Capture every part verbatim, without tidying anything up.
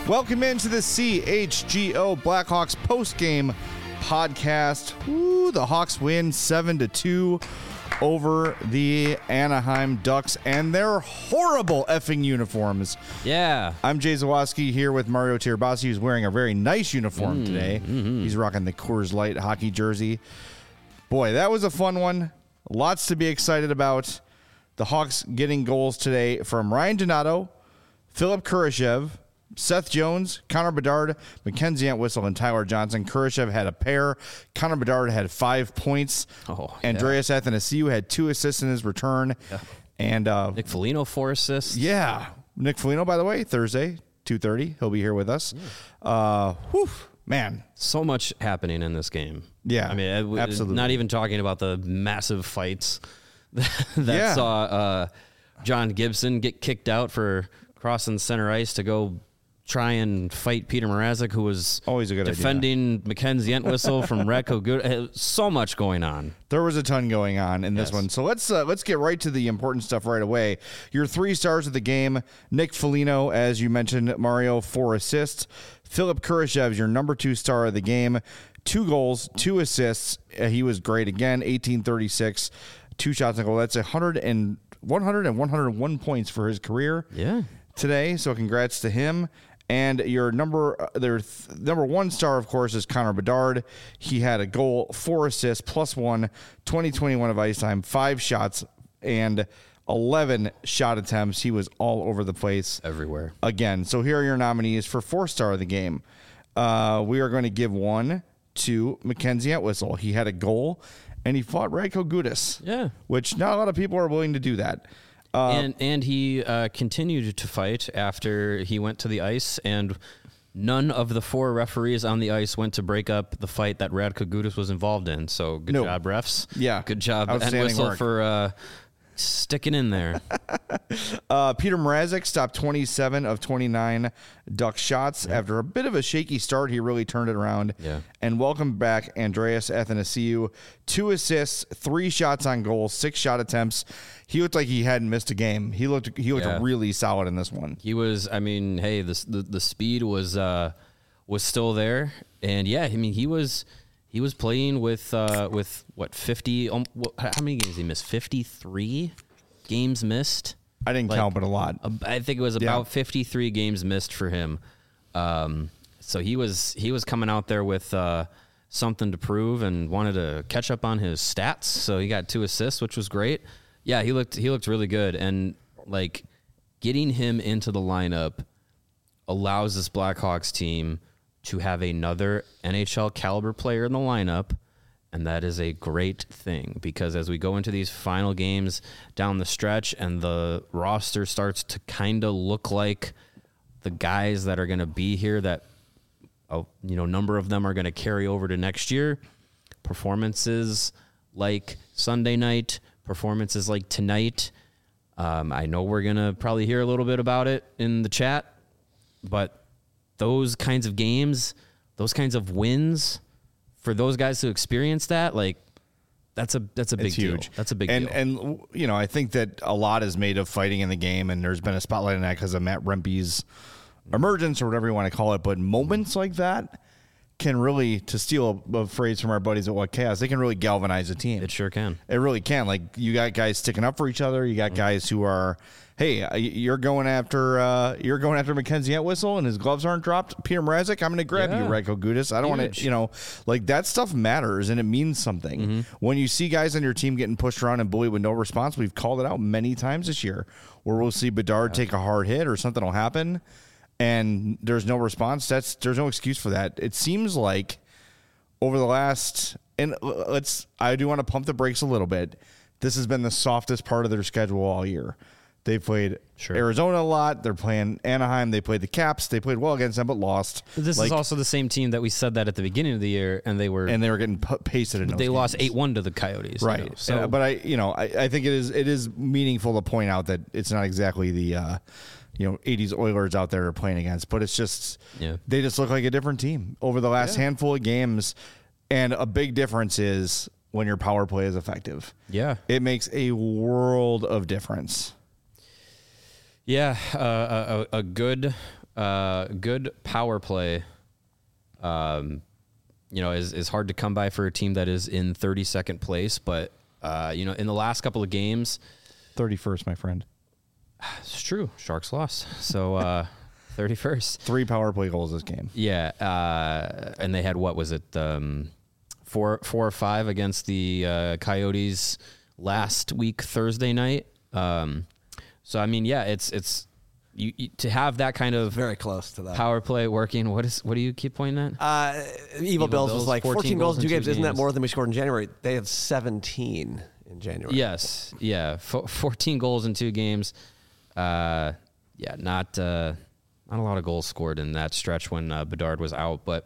Welcome into the C H G O Blackhawks postgame podcast. Woo, the Hawks win seven to two over the Anaheim Ducks and their horrible effing uniforms. Yeah. I'm Jay Zawaski here with Mario Tirabassi, who's wearing a very nice uniform mm, today. Mm-hmm. He's rocking the Coors Light hockey jersey. Boy, that was a fun one. Lots to be excited about. The Hawks getting goals today from Ryan Donato, Philip Kurashev, Seth Jones, Connor Bedard, Mackenzie Entwistle, and Tyler Johnson. Kurashev had a pair. Connor Bedard had five points. Oh, Andreas yeah. Athanasiou had two assists in his return. Yeah. And uh, Nick Foligno, four assists. Yeah. Nick Foligno, by the way, Thursday, two thirty. He'll be here with us. Yeah. Uh, whew, man. So much happening in this game. Yeah, I mean, absolutely. Not even talking about the massive fights that yeah. saw uh, John Gibson get kicked out for crossing center ice to go try and fight Peter Mrazek, who was always a good defending idea. Mackenzie Entwistle from Radko Gudas. So much going on. There was a ton going on in this yes. one. So let's uh, let's get right to the important stuff right away. Your three stars of the game: Nick Foligno, as you mentioned, Mario, four assists. Philip Kurashev, your number two star of the game, two goals, two assists. Uh, he was great again, eighteen thirty-six, two shots on goal. That's one hundred and one hundred and one hundred one points for his career. Yeah. Today. So congrats to him. And your number, uh, their th- number one star, of course, is Connor Bedard. He had a goal, four assists, plus one, twenty twenty-one of ice time, five shots, and eleven shot attempts. He was all over the place. Everywhere. Again. So here are your nominees for four star of the game. Uh, we are going to give one to Mackenzie Entwistle. He had a goal, and he fought Radko Gudas. Yeah. Which not a lot of people are willing to do that. Uh, and and he uh, continued to fight after he went to the ice, and none of the four referees on the ice went to break up the fight that Radko Gudas was involved in. So good no. job, refs. Yeah. Good job, and Outstanding Whistle work. for uh, sticking in there. uh, Peter Mrazek stopped twenty-seven of twenty-nine Duck shots. Yeah. After a bit of a shaky start, he really turned it around. Yeah. And welcome back Andreas Athanasiou. Two assists, three shots on goal, six shot attempts. He looked like he hadn't missed a game. He looked he looked yeah. really solid in this one. He was, I mean, hey, the the, the speed was uh, was still there, and yeah, I mean, he was he was playing with uh, with what fifty? Um, what, how many games did he miss? fifty-three games missed. I didn't like, count, but a lot. I think it was about yeah. fifty-three games missed for him. Um, so he was he was coming out there with uh, something to prove and wanted to catch up on his stats. So he got two assists, which was great. Yeah, he looked he looked really good, and like getting him into the lineup allows this Blackhawks team to have another N H L caliber player in the lineup. And that is a great thing, because as we go into these final games down the stretch and the roster starts to kind of look like the guys that are going to be here, that a you know number of them are going to carry over to next year, performances like Sunday night, performances like tonight. Um, I know we're going to probably hear a little bit about it in the chat, but those kinds of games, those kinds of wins, for those guys to experience that, like that's a that's a big it's deal. Huge. That's a big and, deal. And you know, I think that a lot is made of fighting in the game, and there's been a spotlight on that because of Matt Rempe's emergence or whatever you want to call it. But moments like that can really, to steal a, a phrase from our buddies at What Chaos, they can really galvanize a team. It sure can. It really can. Like, you got guys sticking up for each other. You got guys who are, hey, you're going after uh, you're going after Mackenzie Entwistle and his gloves aren't dropped. Peter Mrazek, I'm going to grab Yeah. you, Radko Gudas. I don't want to, you know, like that stuff matters and it means something. Mm-hmm. When you see guys on your team getting pushed around and bullied with no response, we've called it out many times this year, where we'll see Bedard take a hard hit or something will happen and there's no response. That's there's no excuse for that. It seems like over the last, and let's, I do want to pump the brakes a little bit. This has been the softest part of their schedule all year. They played Sure. Arizona a lot. They're playing Anaheim. They played the Caps. They played well against them, but lost. This like, is also the same team that we said that at the beginning of the year, and they were and they were getting p- pasted in. Those they games. lost eight one to the Coyotes, right? You know, so, Uh, but I, you know, I, I think it is it is meaningful to point out that it's not exactly the, uh, you know, eighties Oilers out there are playing against, but it's just yeah. they just look like a different team over the last Yeah. handful of games, and a big difference is when your power play is effective. Yeah, It makes a world of difference. yeah, uh, a, a good uh, good power play, um, you know, is, is hard to come by for a team that is in thirty-second place. But, uh, you know, in the last couple of games. thirty-first, my friend. It's true. Sharks lost. So, uh, thirty-first. Three power play goals this game. Yeah. Uh, and they had, what was it? Um, four, four or five against the uh, Coyotes last week, Thursday night. Um, so, I mean, yeah, it's, it's, You, you, to have that kind of very close to that power play working. What is what do you keep pointing at? Uh, Evil, Evil Bills, Bills was like fourteen, fourteen goals in two games. games. Isn't that more than we scored in January? They have seventeen in January. Yes, yeah, F- fourteen goals in two games. Uh, yeah, not uh, not a lot of goals scored in that stretch when uh, Bedard was out, but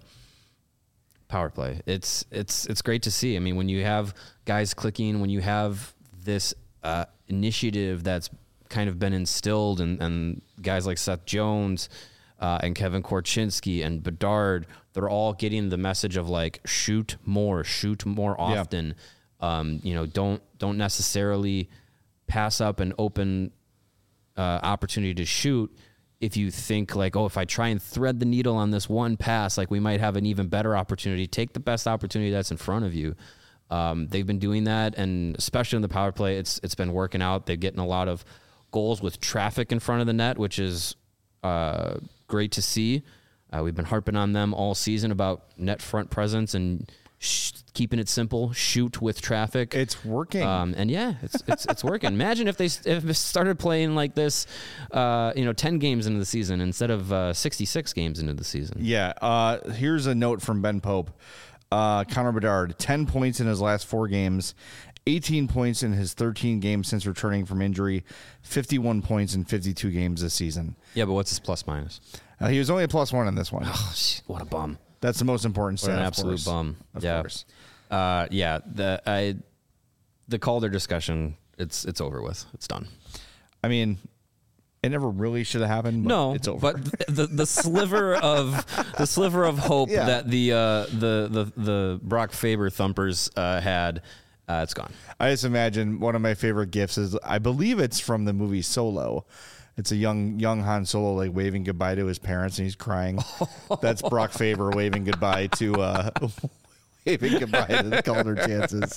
power play. It's it's it's great to see. I mean, when you have guys clicking, when you have this uh, initiative that's kind of been instilled, and, and guys like Seth Jones uh, and Kevin Korchinski and Bedard, they're all getting the message of like shoot more, shoot more often. Yeah. Um, you know, don't don't necessarily pass up an open uh, opportunity to shoot if you think like, oh, if I try and thread the needle on this one pass, like we might have an even better opportunity. Take the best opportunity that's in front of you. Um, they've been doing that, and especially in the power play, it's it's been working out. They're getting a lot of goals with traffic in front of the net, which is uh, great to see. Uh, we've been harping on them all season about net front presence and sh- keeping it simple. Shoot with traffic. It's working, um, and yeah, it's it's it's working. Imagine if they if they started playing like this, uh, you know, ten games into the season instead of uh, sixty-six games into the season. Yeah. Uh, here's a note from Ben Pope. Uh, Connor Bedard, ten points in his last four games. eighteen points in his thirteen games since returning from injury, fifty-one points in fifty-two games this season. Yeah, but what's his plus minus? Uh, he was only a plus one in this one. Oh, what a bum. That's the most important stat. What an of absolute course. bum. Of yeah. course. Uh, yeah. The I, the Calder discussion, it's it's over with. It's done. I mean, it never really should have happened. But no, it's over. But the the sliver of the sliver of hope yeah. that the uh, the the the Brock Faber thumpers uh, had. Uh, it's gone. I just imagine one of my favorite gifs is, I believe it's from the movie Solo. It's a young young Han Solo like waving goodbye to his parents, and he's crying. That's Brock Faber waving goodbye to uh, waving goodbye to the Calder chances.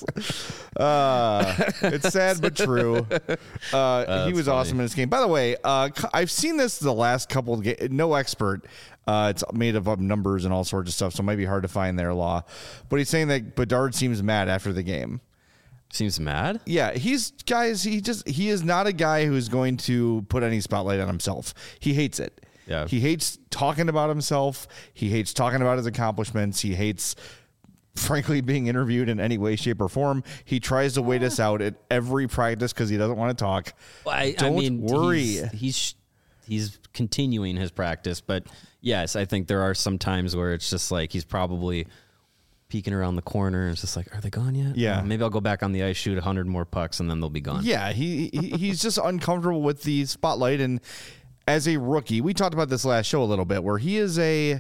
Uh, it's sad but true. Uh, uh, he was funny. Awesome in this game. By the way, uh, I've seen this the last couple of games. No expert. Uh, it's made of up numbers and all sorts of stuff, so it might be hard to find their law. But he's saying that Bedard seems mad after the game. Seems mad? Yeah, he's guys. He just he is not a guy who's going to put any spotlight on himself. He hates it. Yeah, he hates talking about himself. He hates talking about his accomplishments. He hates, frankly, being interviewed in any way, shape, or form. He tries to wait us out at every practice because he doesn't want to talk. Well, I, Don't I mean, worry. He's, he's he's continuing his practice, but yes, I think there are some times where it's just like he's probably peeking around the corner and it's just like, are they gone yet? Yeah. Uh, maybe I'll go back on the ice, shoot one hundred more pucks, and then they'll be gone. Yeah, he, he he's just uncomfortable with the spotlight. And as a rookie, we talked about this last show a little bit, where he is a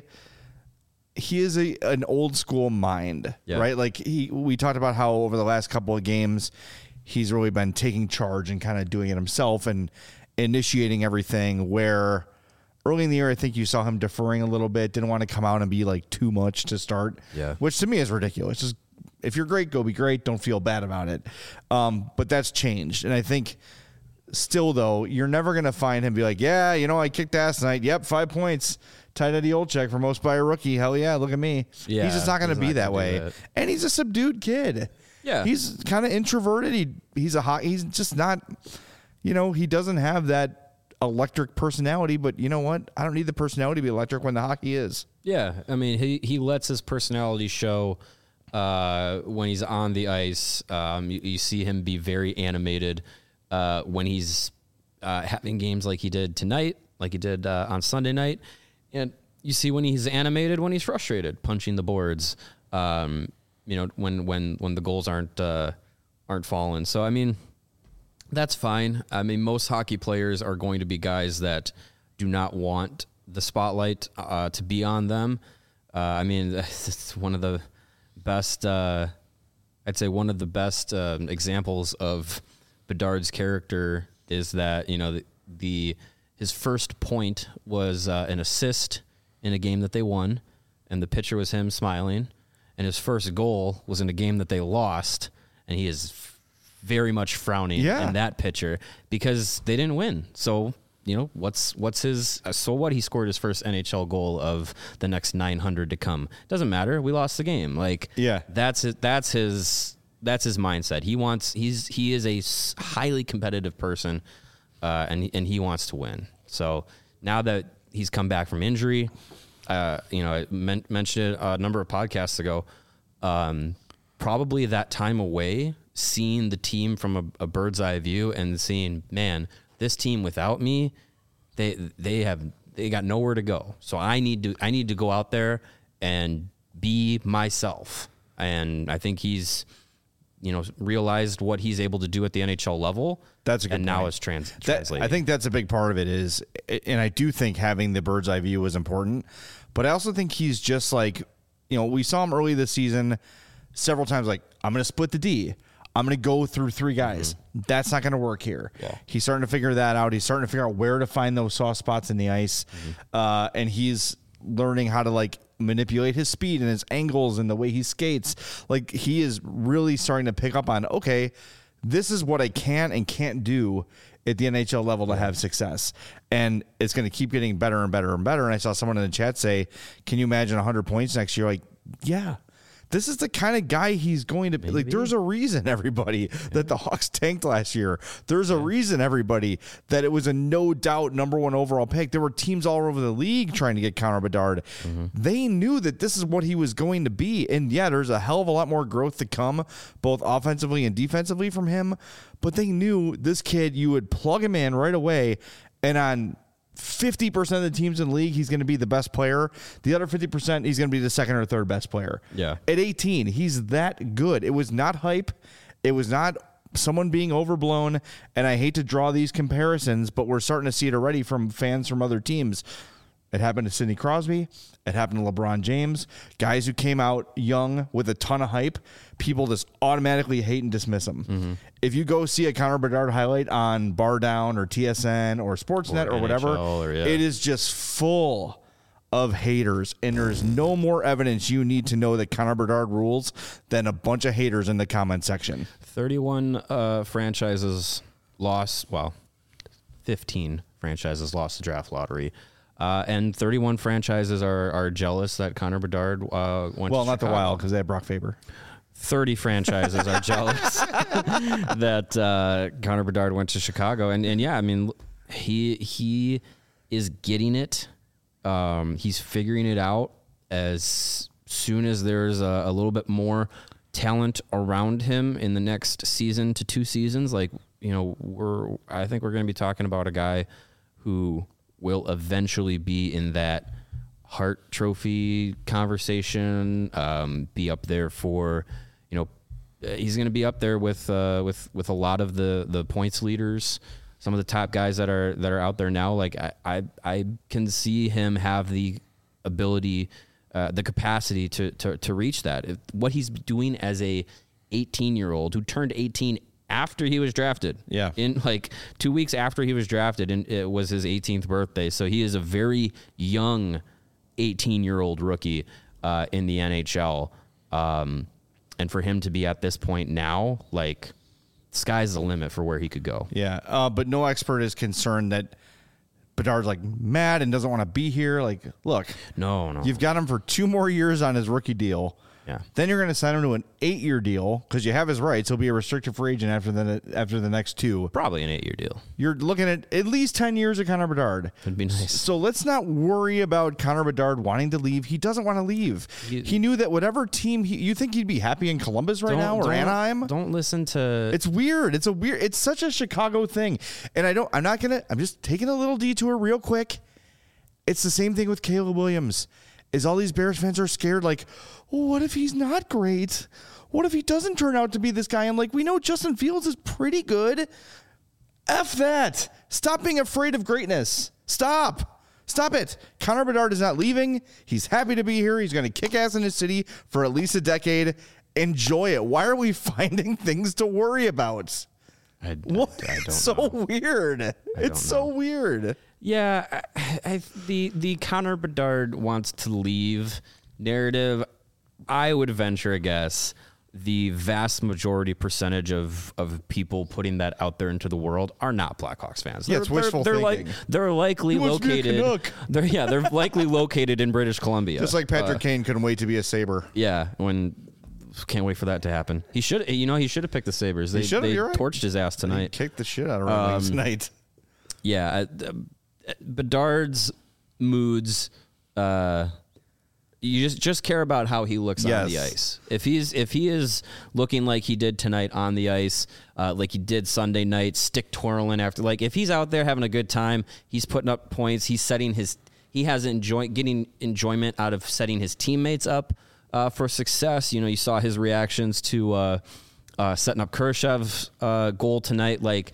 he is a an old school mind, yeah. right? Like he we talked about how over the last couple of games he's really been taking charge and kind of doing it himself and initiating everything, where early in the year, I think you saw him deferring a little bit, didn't want to come out and be like too much to start, yeah. which to me is ridiculous. Just if you're great, go be great. Don't feel bad about it. Um, but that's changed. And I think still, though, you're never going to find him be like, yeah, you know, I kicked ass tonight. Yep, five points. Tied Eddie Olczyk for most by a rookie. Hell yeah, look at me. Yeah, he's just not going to be that way. That. And he's a subdued kid. Yeah. He's kind of introverted. He He's a hot, he's just not, you know, he doesn't have that electric personality, but you know what? I don't need the personality to be electric when the hockey is. Yeah, I mean, he he lets his personality show uh, when he's on the ice. Um, you, you see him be very animated uh, when he's uh, having games like he did tonight, like he did uh, on Sunday night, and you see when he's animated when he's frustrated, punching the boards. Um, you know, when when when the goals aren't uh, aren't falling. So I mean, that's fine. I mean, most hockey players are going to be guys that do not want the spotlight uh, to be on them. Uh, I mean, it's one of the best, uh, I'd say one of the best uh, examples of Bedard's character is that, you know, the, the his first point was uh, an assist in a game that they won, and the pitcher was him smiling. And his first goal was in a game that they lost, and he is f- very much frowning yeah. in that picture because they didn't win. So, you know, what's what's his uh, so what? He scored his first N H L goal of the next nine hundred to come. Doesn't matter. We lost the game. Like, yeah, that's it. That's his. That's his mindset. He wants. He's he is a highly competitive person, uh, and and he wants to win. So now that he's come back from injury, uh, you know, I men- mentioned it a number of podcasts ago. Um, probably that time away, seeing the team from a, a bird's eye view and seeing, man, this team without me, they they have they got nowhere to go. So I need to I need to go out there and be myself. And I think he's, you know, realized what he's able to do at the N H L level. That's a good and point. now it's trans- that, translating. I think that's a big part of it is, and I do think having the bird's eye view is important, but I also think he's just like, you know, we saw him early this season several times, like, I'm going to split the D. I'm going to go through three guys. Mm-hmm. That's not going to work here. Yeah. He's starting to figure that out. He's starting to figure out where to find those soft spots in the ice. Mm-hmm. Uh, and he's learning how to, like, manipulate his speed and his angles and the way he skates. Like, he is really starting to pick up on, okay, this is what I can and can't do at the N H L level to have success. And it's going to keep getting better and better and better. And I saw someone in the chat say, can you imagine one hundred points next year? Like, yeah. This is the kind of guy he's going to be. Like, there's a reason, everybody, yeah. that the Hawks tanked last year. There's a yeah. reason, everybody, that it was a no-doubt number one overall pick. There were teams all over the league trying to get Connor Bedard. Mm-hmm. They knew that this is what he was going to be. And, yeah, there's a hell of a lot more growth to come, both offensively and defensively from him. But they knew this kid, you would plug him in right away, and on fifty percent of the teams in the league, he's going to be the best player. The other fifty percent, he's going to be the second or third best player. Yeah. At eighteen, he's that good. It was not hype. It was not someone being overblown. And I hate to draw these comparisons, but we're starting to see it already from fans from other teams. It happened to Sidney Crosby. It happened to LeBron James. Guys who came out young with a ton of hype, people just automatically hate and dismiss them. Mm-hmm. If you go see a Connor Bedard highlight on Bar Down or T S N or Sportsnet or, or whatever, or, yeah. it is just full of haters. And there's no more evidence you need to know that Connor Bedard rules than a bunch of haters in the comment section. thirty-one uh, franchises lost, well, fifteen franchises lost the draft lottery. Uh, and thirty-one franchises are, are jealous that Connor Bedard uh, went well, to not Chicago. the Wild because they have Brock Faber. thirty franchises are jealous that uh, Connor Bedard went to Chicago. And, and yeah, I mean, he he is getting it. Um, he's figuring it out as soon as there's a, a little bit more talent around him in the next season to two seasons. Like, you know, we're I think we're going to be talking about a guy who will eventually be in that Hart Trophy conversation, um, be up there for, you know, he's going to be up there with uh, with with a lot of the the points leaders, some of the top guys that are that are out there now. Like I I, I can see him have the ability, uh, the capacity to to to reach that. If, what he's doing as a eighteen year old who turned eighteen after he was drafted. Yeah. In like two weeks after he was drafted, and it was his eighteenth birthday. So he is a very young eighteen-year-old rookie uh, in the N H L. Um, and for him to be at this point now, like, sky's the limit for where he could go. Yeah. Uh, but no expert is concerned that Bedard's like mad and doesn't want to be here. Like, look. No, no. You've got him for two more years on his rookie deal. Yeah. Then you're going to sign him to an eight-year deal because you have his rights. He'll be a restricted free agent after the after the next two. Probably an eight-year deal. You're looking at at least ten years of Connor Bedard. That'd be nice. So let's not worry about Connor Bedard wanting to leave. He doesn't want to leave. You, he knew that whatever team he, you think he'd be happy in Columbus right now or Anaheim. Don't listen to. It's weird. It's a weird. It's such a Chicago thing, and I don't. I'm not gonna. I'm just taking a little detour real quick. It's the same thing with Caleb Williams. Is all these Bears fans are scared, like, well, what if he's not great? What if he doesn't turn out to be this guy? I'm like, we know Justin Fields is pretty good. F that. Stop being afraid of greatness. Stop. Stop it. Connor Bedard is not leaving. He's happy to be here. He's going to kick ass in his city for at least a decade. Enjoy it. Why are we finding things to worry about? I, I, What? I don't so know. weird. It's so weird. Yeah, I, I, the the Connor Bedard wants to leave narrative, I would venture a guess the vast majority percentage of, of people putting that out there into the world are not Blackhawks fans. Yeah, they're, it's wishful they're, they're thinking. Like, they're likely He wants to be a located. Canuck. They're yeah, they're likely located in British Columbia. Just like Patrick Uh, Kane couldn't wait to be a Sabre. yeah, when can't wait for that to happen. He should, you know, he should have picked the Sabres. They, should've, they you're right. torched his ass He tonight. kicked the shit out of Red Wings Um, tonight. Yeah, uh, Bedard's moods. Uh, you just just care about how he looks on the Yes. ice. If he's if he is looking like he did tonight on the ice, uh, like he did Sunday night, stick twirling after. Like if he's out there having a good time, he's putting up points. He's setting his. He has enjoy getting enjoyment out of setting his teammates up uh, for success. You know, you saw his reactions to uh, uh, setting up Kurashev's uh, goal tonight. Like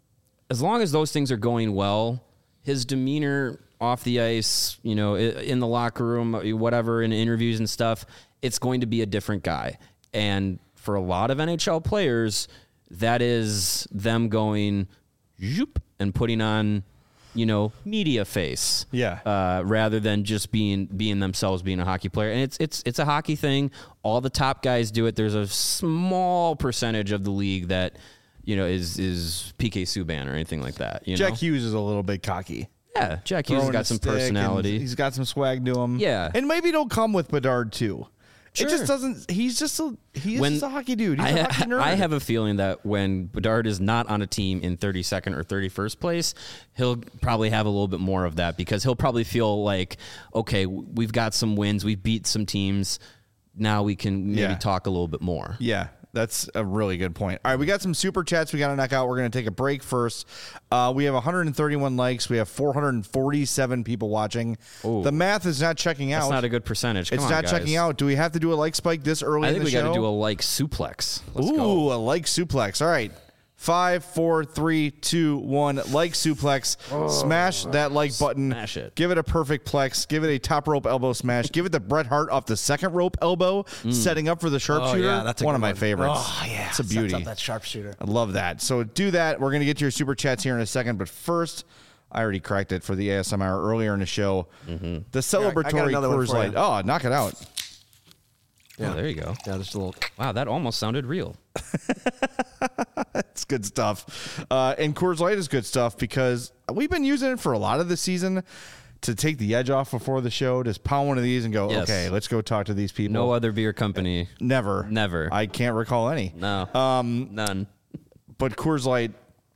as long as those things are going well, his demeanor off the ice, you know, in the locker room, whatever, in interviews and stuff, it's going to be a different guy. And for a lot of N H L players, that is them going zoop and putting on, you know, media face. Yeah. Uh, rather than just being being themselves, being a hockey player. And it's it's it's a hockey thing. All the top guys do it. There's a small percentage of the league that, you know, is is P K Subban or anything like that. You Jack know? Hughes is a little bit cocky. Yeah, Jack Hughes has Throwing got a some stick and personality. He's got some swag to him. Yeah. And maybe it'll come with Bedard too. Sure. It just doesn't. He's just a. He's When- just a hockey dude. He's I, a hockey nerd. I have a feeling that when Bedard is not on a team in thirty-second or thirty-first place, he'll probably have a little bit more of that because he'll probably feel like, okay, we've got some wins, we've beat some teams, now we can maybe Yeah. talk a little bit more. Yeah, that's a really good point. All right, we got some super chats we got to knock out. We're going to take a break first. Uh, we have one hundred thirty-one likes. We have four hundred forty-seven people watching. Ooh. The math is not checking out. That's not a good percentage. Come It's on, not guys. checking out. Do we have to do a like spike this early I in think the we got show? to do a like suplex. Let's Ooh, go. a like suplex. All right. Five, four, three, two, one. Like suplex. Smash that like button. Smash it. Give it a perfect plex. Give it a top rope elbow smash. Give it the Bret Hart off the second rope elbow, setting up for the sharpshooter. Oh, yeah, that's a one of good my one. favorites. Oh, yeah. It's a Sets beauty. up that sharpshooter. I love that. So do that. We're going to get to your super chats here in a second. But first, I already cracked it for the A S M R earlier in the show. The celebratory another one Coors for you. Light. Oh, knock it out. Oh, there you go. Yeah, just a little. Wow, that almost sounded real. It's good stuff. Uh, and Coors Light is good stuff because we've been using it for a lot of the season to take the edge off before the show. Just pound one of these and go, Yes. okay, let's go talk to these people. No other beer company. Never. Never. I can't recall any. No. Um, None. But Coors Light,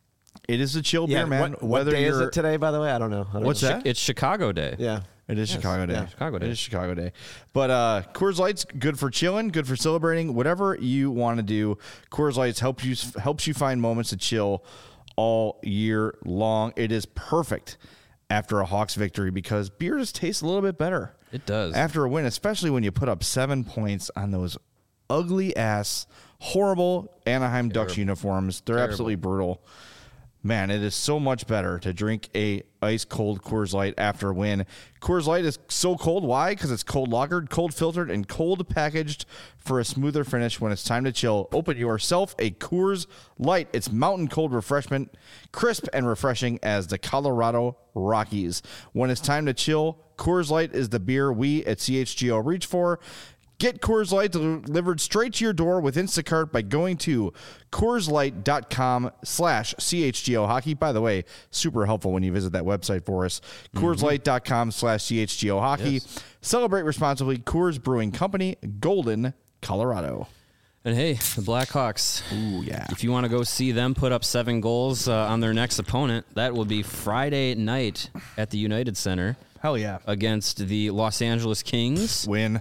it is a chill Yeah, beer, man. what, what Whether day is you're- it today, by the way? I don't know. I don't What's know. that? It's Chicago Day. Yeah. It is Chicago Day. yeah, Chicago Day. It is Chicago Day. But uh, Coors Light's good for chilling, good for celebrating, whatever you want to do. Coors Light helps you helps you find moments to chill all year long. It is perfect after a Hawks victory because beer just tastes a little bit better. It does. After a win, especially when you put up seven points on those ugly ass, horrible Anaheim Ducks uniforms. They're absolutely brutal. Man, it is so much better to drink a ice cold Coors Light after a win. Coors Light is so cold. Why? Because it's cold lagered, cold filtered, and cold packaged for a smoother finish when it's time to chill. Open yourself a Coors Light. It's mountain cold refreshment, crisp and refreshing as the Colorado Rockies. When it's time to chill, Coors Light is the beer we at C H G O reach for. Get Coors Light delivered straight to your door with Instacart by going to CoorsLight.com slash CHGO Hockey. By the way, super helpful when you visit that website for us. CoorsLight.com slash CHGO Hockey. Yes. Celebrate responsibly. Coors Brewing Company, Golden, Colorado. And hey, the Blackhawks. Ooh, yeah. If you want to go see them put up seven goals uh, on their next opponent, that will be Friday night at the United Center Hell yeah. against the Los Angeles Kings. Win.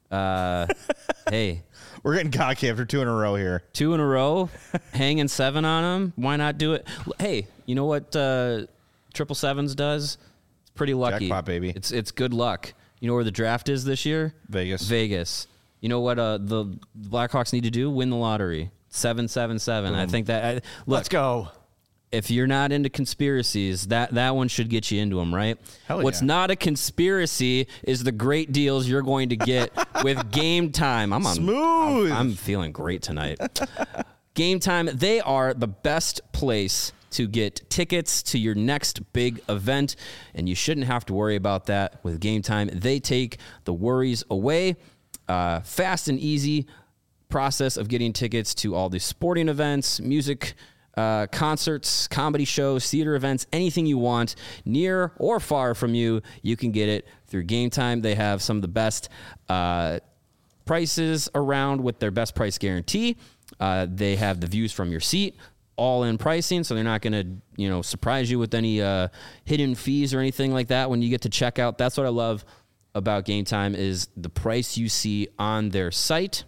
Uh, hey, We're getting cocky after two in a row here. two in a row, hanging seven on them. Why not do it? L- Hey, you know what uh, Triple Sevens does? It's pretty lucky. Jackpot, baby. It's it's good luck. You know where the draft is this year? Vegas. Vegas. You know what uh, the Blackhawks need to do? Win the lottery. Seven, seven, seven. I think that. I, look, Let's go. if you're not into conspiracies, that, that one should get you into them, right? Hell What's yeah. not a conspiracy is the great deals you're going to get with Game Time. I'm on Smooth. I'm, I'm feeling great tonight. Game Time, they are the best place to get tickets to your next big event, and you shouldn't have to worry about that with Game Time. They take the worries away. Uh, fast and easy process of getting tickets to all the sporting events, music Uh, concerts, comedy shows, theater events, anything you want, near or far from you, you can get it through Game Time. They have some of the best uh, prices around with their best price guarantee. Uh, they have the views from your seat, all in pricing, so they're not going to, you know, surprise you with any uh, hidden fees or anything like that when you get to check out. That's what I love about Game Time is the price you see on their site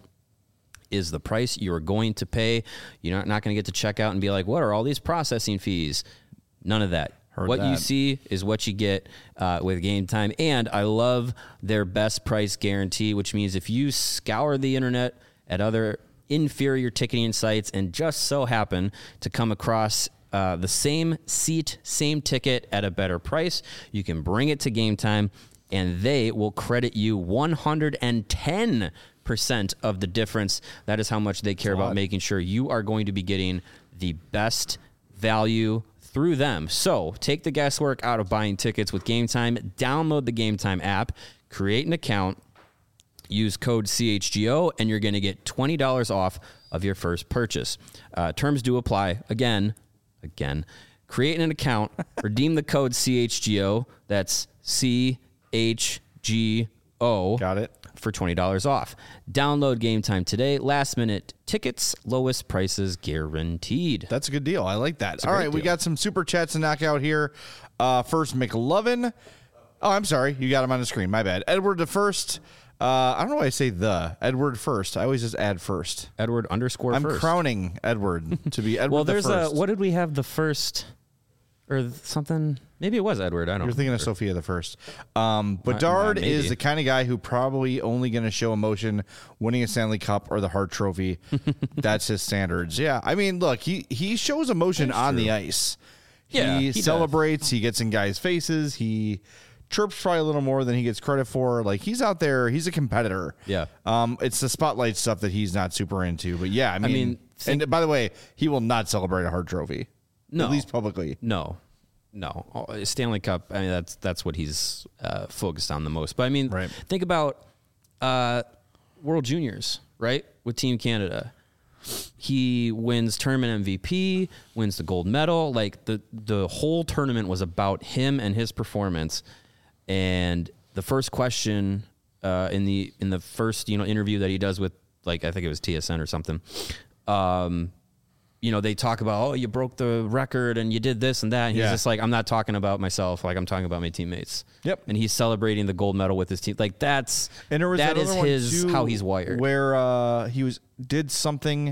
is the price you're going to pay. You're not, not going to get to check out and be like, what are all these processing fees? None of that. Heard what that. you see is what you get uh, with Game Time. And I love their best price guarantee, which means if you scour the internet at other inferior ticketing sites and just so happen to come across uh, the same seat, same ticket at a better price, you can bring it to Game Time and they will credit you one hundred ten percent of the difference. That is how much they care about making sure you are going to be getting the best value through them. So take the guesswork out of buying tickets with Game Time. Download the Game Time app, create an account, use code C H G O, and you're going to get twenty dollars off of your first purchase. Uh, terms do apply. Again, again, create an account, redeem the code C H G O. That's C H G O. Got it. For twenty dollars off. Download Game Time today. Last minute tickets, lowest prices guaranteed. That's a good deal. I like that. All great right, we deal. got some super chats to knock out here. Uh, first, McLovin. Oh, I'm sorry. You got him on the screen. My bad. Edward the first. Uh, I don't know why I say the. Edward first. I always just add first. Edward underscore I'm first. crowning Edward to be Edward well, the there's first. a, what did we have the first or th- something? Maybe it was Edward. I don't know. You're thinking of Sophia the first. Um, Bedard maybe. is the kind of guy who probably only going to show emotion winning a Stanley Cup or the Hart Trophy. That's his standards. Yeah. I mean, look, he, he shows emotion That's on true. the ice. Yeah, he, he does. celebrates. He gets in guys' faces. He chirps probably a little more than he gets credit for. Like, he's out there. He's a competitor. Yeah. Um, it's the spotlight stuff that he's not super into. But yeah, I mean, mean, think- and by the way, he will not celebrate a Hart Trophy. No. At least publicly. No, no. Oh, Stanley Cup. I mean, that's that's what he's uh, focused on the most. But I mean, Right. think about uh, World Juniors, right? With Team Canada, he wins tournament M V P, wins the gold medal. Like the the whole tournament was about him and his performance. And the first question uh, in the in the first you know interview that he does with, like, I think it was T S N or something. Um, you know, they talk about, oh, you broke the record and you did this and that. And he's Yeah. just like, I'm not talking about myself. Like, I'm talking about my teammates. Yep. And he's celebrating the gold medal with his team. Like, that's, And there was that that is other one, his, too, how he's wired. where uh, he was did something,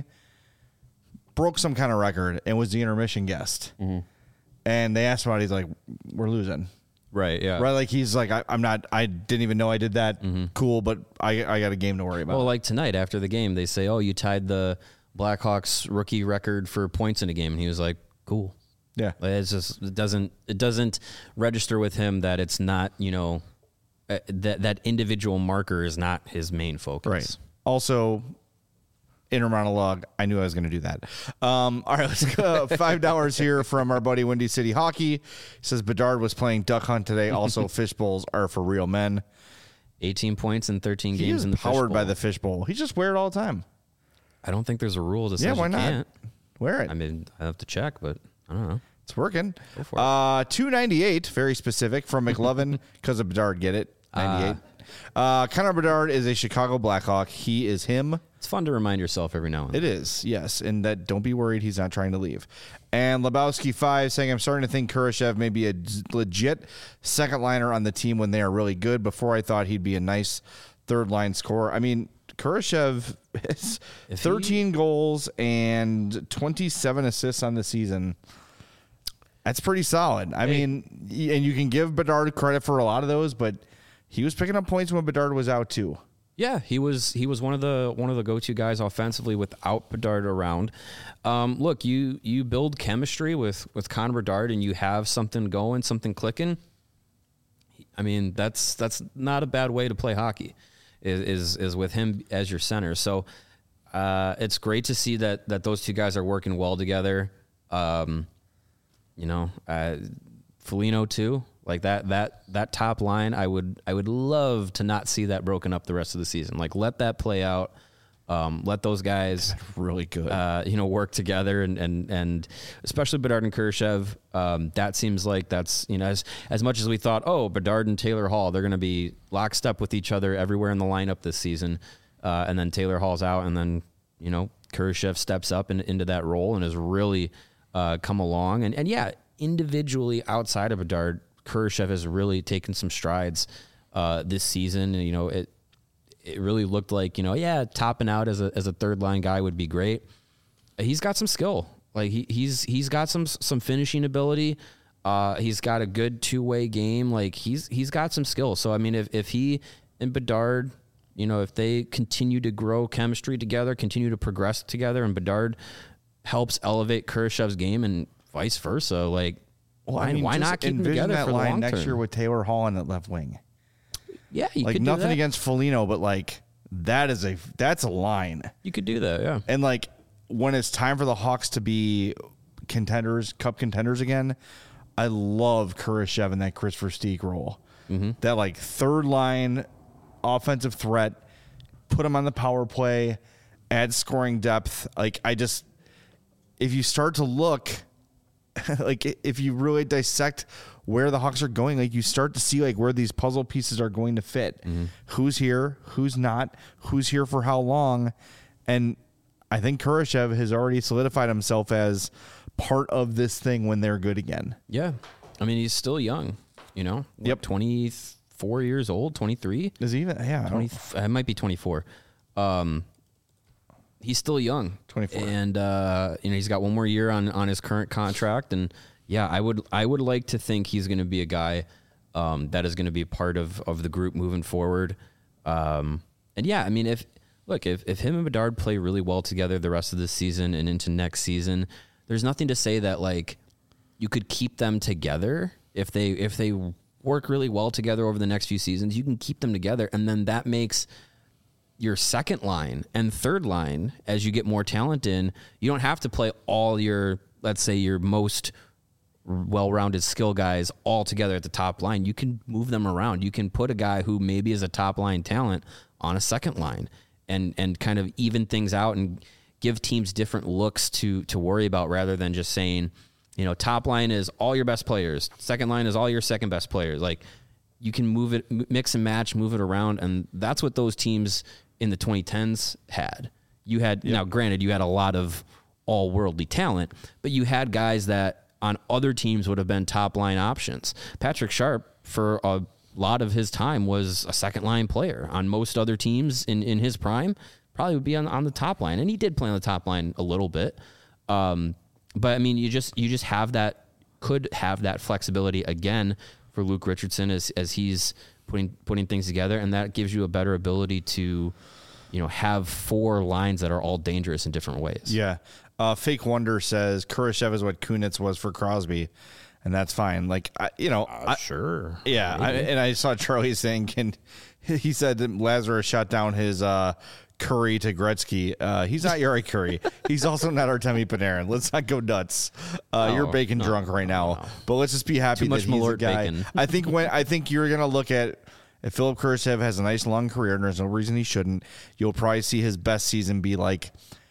broke some kind of record, and was the intermission guest. Mm-hmm. And they asked him about it. He's like, "We're losing." Right. Yeah. Right? Like, he's like, I, "I'm not. I didn't even know I did that. Cool, but I I got a game to worry about." Well, like tonight after the game, they say, oh, you tied the Blackhawks rookie record for points in a game. And he was like, cool. yeah. Like, it's just, it doesn't, it doesn't register with him that it's not, you know, uh, that, that individual marker is not his main focus. Right. Also, inner monologue. I knew I was going to do that. Um, all right, let's go. Five dollars here from our buddy Windy City Hockey. He says Bedard was playing duck hunt today. Also, fish bowls are for real men. eighteen points in thirteen He games is in the powered fish by bowl. the fish bowl. He just wear it all the time. I don't think there's a rule that says Yeah, why you not? can't. Wear it. I mean, I have to check, but I don't know. It's working. Go for it. Uh, two ninety-eight, very specific from McLovin because of Bedard. Get it? ninety-eight. Uh, Connor Bedard is a Chicago Blackhawk. He is him. It's fun to remind yourself every now and then. It is, yes. And that don't be worried, he's not trying to leave. And Lebowski five saying, I'm starting to think Kurashev may be a legit second liner on the team when they are really good. Before I thought he'd be a nice third line scorer. I mean, Kurashev has If thirteen goals and twenty-seven assists on the season. That's pretty solid. I Hey. mean, y- and you can give Bedard credit for a lot of those, but he was picking up points when Bedard was out too. Yeah, he was he was one of the one of the go-to guys offensively without Bedard around. Um, look, you you build chemistry with with Connor Bedard and you have something going, something clicking. I mean, that's that's not a bad way to play hockey. Is is, is with him as your center. So Uh, it's great to see that that those two guys are working well together. Um, you know, uh, Foligno too. Like that that that top line, I would I would love to not see that broken up the rest of the season. Like let that play out. Um, let those guys really good, uh, you know, work together and and and especially Bedard and Kurashev. Um, that seems like that's you know as as much as we thought, oh, Bedard and Taylor Hall, they're going to be lockstep with each other everywhere in the lineup this season, uh, and then Taylor Hall's out, and then you know Kurashev steps up in, into that role and has really uh, come along, and and yeah, individually outside of Bedard, Kurashev has really taken some strides uh, this season. You know, it it really looked like, you know, yeah, topping out as a as a third line guy would be great. He's got some skill. Like he he's he's got some some finishing ability. Uh, he's got a good two way game. Like he's he's got some skill. So I mean, if if he and Bedard, you know, if they continue to grow chemistry together, continue to progress together, and Bedard helps elevate Kurashev's game and vice versa, like. Well, why, I mean, why not keep them together that for the line long next term? year with Taylor Hall on that left wing? Yeah, you like could do nothing that. against Foligno, but like that is a that's a line. You could do that, yeah. And like when it's time for the Hawks to be contenders, cup contenders again, I love Kurashev in that Christopher Steek role. Mm-hmm. That like third line offensive threat, put him on the power play, add scoring depth. Like I just, if you start to look. Like if you really dissect where the Hawks are going, like you start to see like where these puzzle pieces are going to fit. Mm-hmm. Who's here, who's not, who's here for how long. And I think Kurashev has already solidified himself as part of this thing when they're good again. Yeah. I mean, he's still young, you know? What, yep. twenty-four years old, twenty-three? Is he even? Yeah. twenty, it might be twenty-four. Um, he's still young. twenty-four. And, uh, you know, he's got one more year on, on his current contract. And, yeah, I would I would like to think he's going to be a guy um, that is going to be part of, of the group moving forward. Um, and, yeah, I mean, if look, if, if him and Bedard play really well together the rest of this season and into next season, there's nothing to say that, like, you could keep them together. If they if they work really well together over the next few seasons, you can keep them together. And then that makes your second line and third line, as you get more talent in, you don't have to play all your, let's say, your most well-rounded skill guys all together at the top line. You can move them around. You can put a guy who maybe is a top line talent on a second line and and kind of even things out and give teams different looks to to worry about rather than just saying, you know, top line is all your best players, second line is all your second best players. Like you can move it, mix and match, move it around, and that's what those teams in the twenty tens had. You had, yep. Now granted, you had a lot of all worldly talent, but you had guys that on other teams would have been top line options. Patrick Sharp, for a lot of his time, was a second line player. On most other teams in, in his prime, probably would be on, on the top line. And he did play on the top line a little bit. Um, but I mean, you just, you just have that, could have that flexibility again for Luke Richardson as, as he's putting, putting things together. And that gives you a better ability to, you know, have four lines that are all dangerous in different ways. Yeah. Uh, Fake Wonder says Kurashev is what Kunitz was for Crosby, and that's fine. Like, I, you know, uh, I, sure. Yeah. I, and I saw Charlie saying, can, he said that Lazarus shut down his uh, Curry to Gretzky. Uh, he's not Yuri Curry. He's also not Artemi Panarin. Let's not go nuts. Uh, no, you're bacon no, drunk right no, now. no. But let's just be happy Too that much he's Malort a guy. bacon. I think when I think you're gonna look at if Philip Kurashev has a nice long career, and there's no reason he shouldn't, you'll probably see his best season be like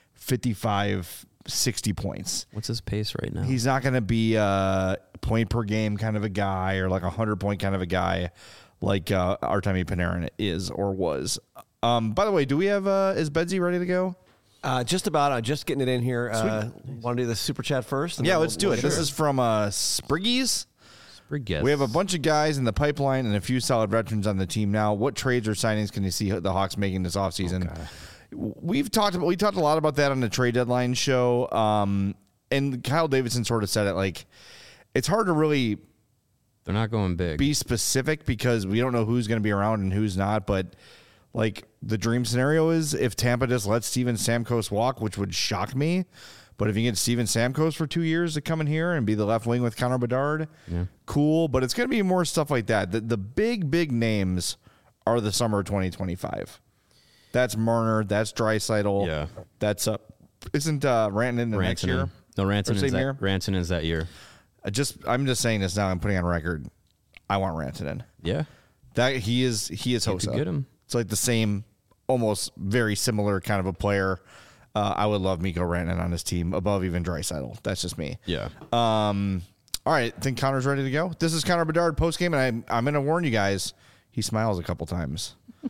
fifty-five, sixty points. What's his pace right now? He's not going to be a point per game kind of a guy or like a hundred point kind of a guy like uh, Artemi Panarin is or was. Um, by the way, do we have uh, is Bedsy ready to go? Uh, just about. I'm just getting it in here. Uh, Want to do the super chat first? Yeah, let's we'll, do we'll it. This is from uh, Spriggies. Spriggies. We have a bunch of guys in the pipeline and a few solid veterans on the team now. What trades or signings can you see the Hawks making this offseason? Okay. We've talked about we talked a lot about that on the trade deadline show, um, and Kyle Davidson sort of said it like it's hard to really they're not going big be specific because we don't know who's going to be around and who's not. But like the dream scenario is if Tampa just lets Steven Stamkos walk, which would shock me. But if you get Steven Stamkos for two years to come in here and be the left wing with Connor Bedard, yeah. Cool. But it's going to be more stuff like that. The, the big big names are the summer of twenty twenty-five. That's Marner. That's Draisaitl. Yeah. That's uh, isn't uh, Rantanen in the next year? No, Rantanen is that, Rantanen is that year. I just I'm just saying this now. I'm putting on record. I want Rantanen. Yeah. That he is he is Hossa. Get him. It's like the same, almost very similar kind of a player. Uh, I would love Mikko Rantanen on his team above even Draisaitl. That's just me. Yeah. Um. All right. I think Connor's ready to go. This is Connor Bedard post game, and I'm I'm going to warn you guys. He smiles a couple times.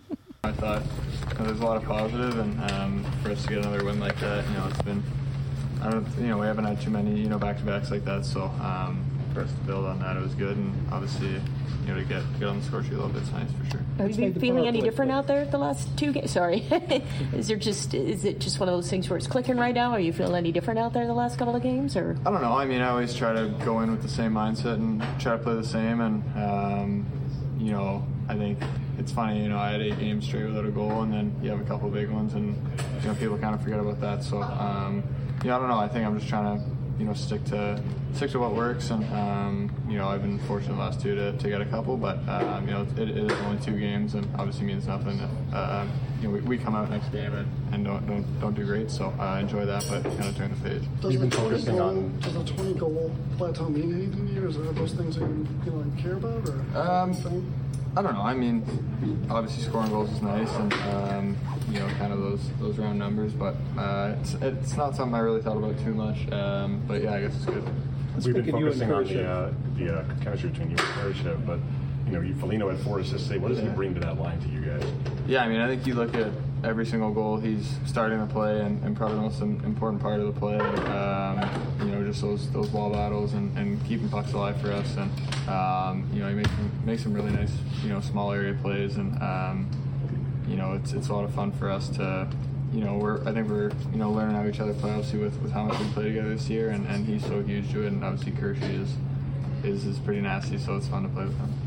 I thought you know, there's a lot of positive, and um, for us to get another win like that, you know, it's been. I don't. You know, we haven't had too many you know back to backs like that, so. Um, For us to build on that, it was good, and obviously, you know, to get get on the score sheet a little bit, it's nice for sure. Are you feeling any different out there the last two games? Sorry, is there just is it just one of those things where it's clicking right now? Are you feeling any different out there the last couple of games, or? I don't know. I mean, I always try to go in with the same mindset and try to play the same, and um, you know, I think it's funny. You know, I had eight games straight without a goal, and then you have a couple of big ones, and you know, people kind of forget about that. So, um, yeah, I don't know. I think I'm just trying to. You know, stick to stick to what works, and um, you know, I've been fortunate the last two to, to get a couple, but um, you know, it, it is only two games, and obviously means nothing if uh, you know we, we come out next game and, and don't don't don't do great. So I uh, enjoy that, but kind of turn the page. Does You've been focusing goal, on. Does a twenty goal plateau mean anything to you? Is there those things that you, you know, care about, or um, I don't know. I mean, obviously scoring goals is nice, and um, you know, kind of those those round numbers. But uh, it's it's not something I really thought about too much. Um, but yeah, I guess it's good. We've been focusing on the uh, the uh, chemistry between you and Kurashev, but you know, you Foligno had four assists. What does yeah. he bring to that line to you guys? Yeah, I mean, I think you look at every single goal, he's starting the play, and, and probably the most important part of the play. Um, you know, just those those ball battles and, and keeping pucks alive for us. And um, you know, he makes some, makes some really nice, you know, small area plays, and um, you know, it's it's a lot of fun for us to. You know, we're I think we're you know learning how each other play, obviously with, with how much we play together this year, and, and he's so huge to it, and obviously Kershey is is is pretty nasty, so it's fun to play with him.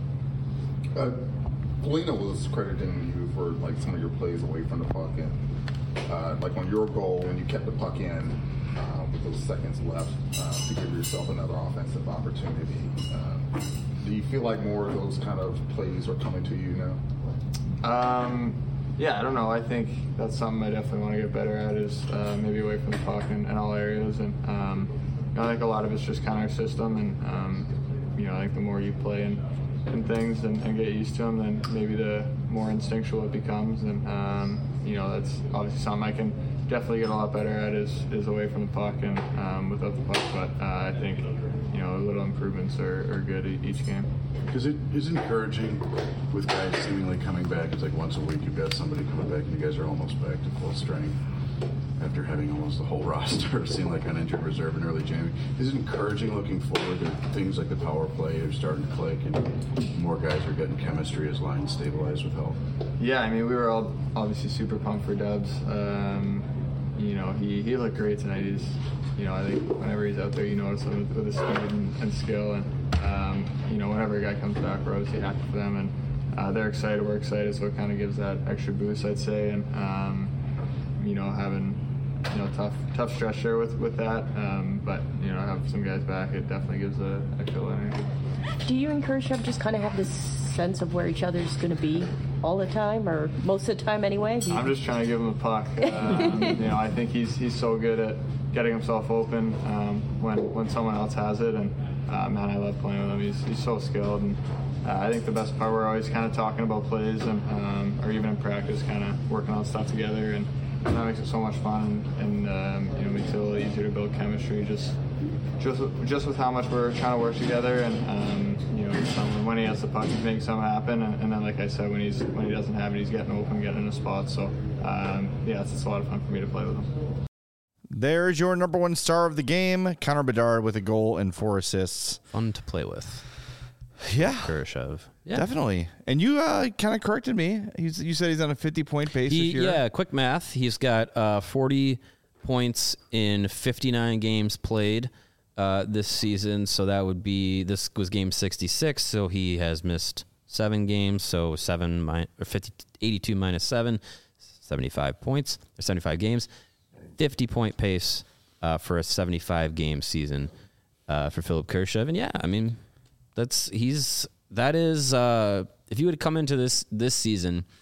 Uh, Foligno was crediting you for like some of your plays away from the puck, and uh, like on your goal when you kept the puck in uh, with those seconds left uh, to give yourself another offensive opportunity. Uh, do you feel like more of those kind of plays are coming to you now? Um. Yeah, I don't know. I think that's something I definitely want to get better at is uh, maybe away from the puck in, in all areas. And um, you know, I think a lot of it's just kind of our system. And, um, you know, I think the more you play in, in things and, and get used to them, then maybe the more instinctual it becomes. And, um, you know, that's obviously something I can definitely get a lot better at is, is away from the puck and um, without the puck. But uh, I think, you know, little improvements are, are good each game. Because it is encouraging with guys seemingly coming back. It's like once a week you've got somebody coming back and you guys are almost back to full strength after having almost the whole roster seem like uninjured reserve in early January. Is it encouraging looking forward that things like the power play are starting to click and more guys are getting chemistry as lines stabilize with health? Yeah, I mean, we were all obviously super pumped for Dubs. Um, you know, he, he looked great tonight. He's, you know, I think whenever he's out there, you notice him with, with his speed and, and skill. And, um, you know, whenever a guy comes back, we're obviously happy for them. And uh, they're excited, we're excited, so it kind of gives that extra boost, I'd say. And, um, you know, having, you know, tough tough stretch there with, with that. Um, but, you know, have some guys back, it definitely gives a extra energy. Do you encourage them just kind of have this sense of where each other's going to be all the time, or most of the time anyway? I'm just trying to give him a puck. Um, you know, I think he's he's so good at getting himself open um, when when someone else has it, and uh, man, I love playing with him. He's he's so skilled, and uh, I think the best part, we're always kind of talking about plays, and um, or even in practice, kind of working on stuff together, and, and that makes it so much fun, and, and um, you know, makes it a little easier to build chemistry. Just just just with how much we're trying to work together, and um, you know, some, when he has the puck, he's making something happen, and, and then, like I said, when he's when he doesn't have it, he's getting open, getting in a spot. So um, yeah, it's, it's a lot of fun for me to play with him. There's your number one star of the game, Connor Bedard, with a goal and four assists. Fun to play with. Yeah, Kurashev. Yeah, definitely. And you uh, kind of corrected me. He's, you said he's on a fifty-point pace he, this year. Yeah, quick math. He's got uh, forty points in fifty-nine games played uh, this season. So that would be, this was game sixty-six. So he has missed seven games. So seven mi- or fifty, eighty-two minus seven, seventy-five points or seventy-five games. fifty-point pace uh, for a seventy-five game season uh, for Philipp Kurashev. And yeah, I mean, that's he's that is uh, if you would come into this this season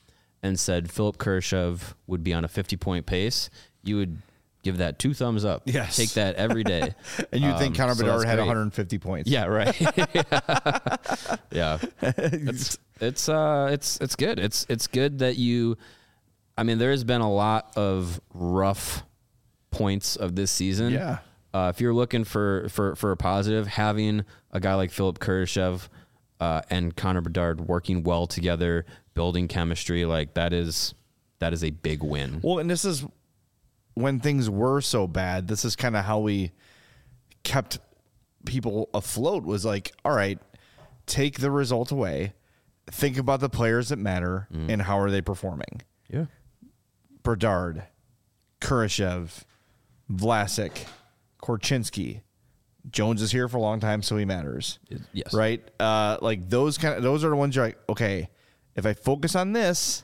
and said Philip Kurashev would be on a fifty-point pace, you would give that two thumbs up. Yes. Take that every day. And you'd um, think Connor so Bedard had great. one hundred fifty points. Yeah, right. yeah. It's it's uh it's it's good. It's it's good that you I mean, there's been a lot of rough points of this season. Yeah. Uh, if you're looking for, for, for a positive, having a guy like Philip Kurashev uh, and Connor Bedard working well together, building chemistry, like that is that is a big win. Well, and this is when things were so bad. This is kind of how we kept people afloat, was like, all right, take the result away, think about the players that matter, mm. and how are they performing. Yeah. Bedard, Kurashev, Vlasic, Korchinski. Jones is here for a long time, so he matters. Yes. Right? Uh, like those kind of those are the ones you're like, okay, if I focus on this,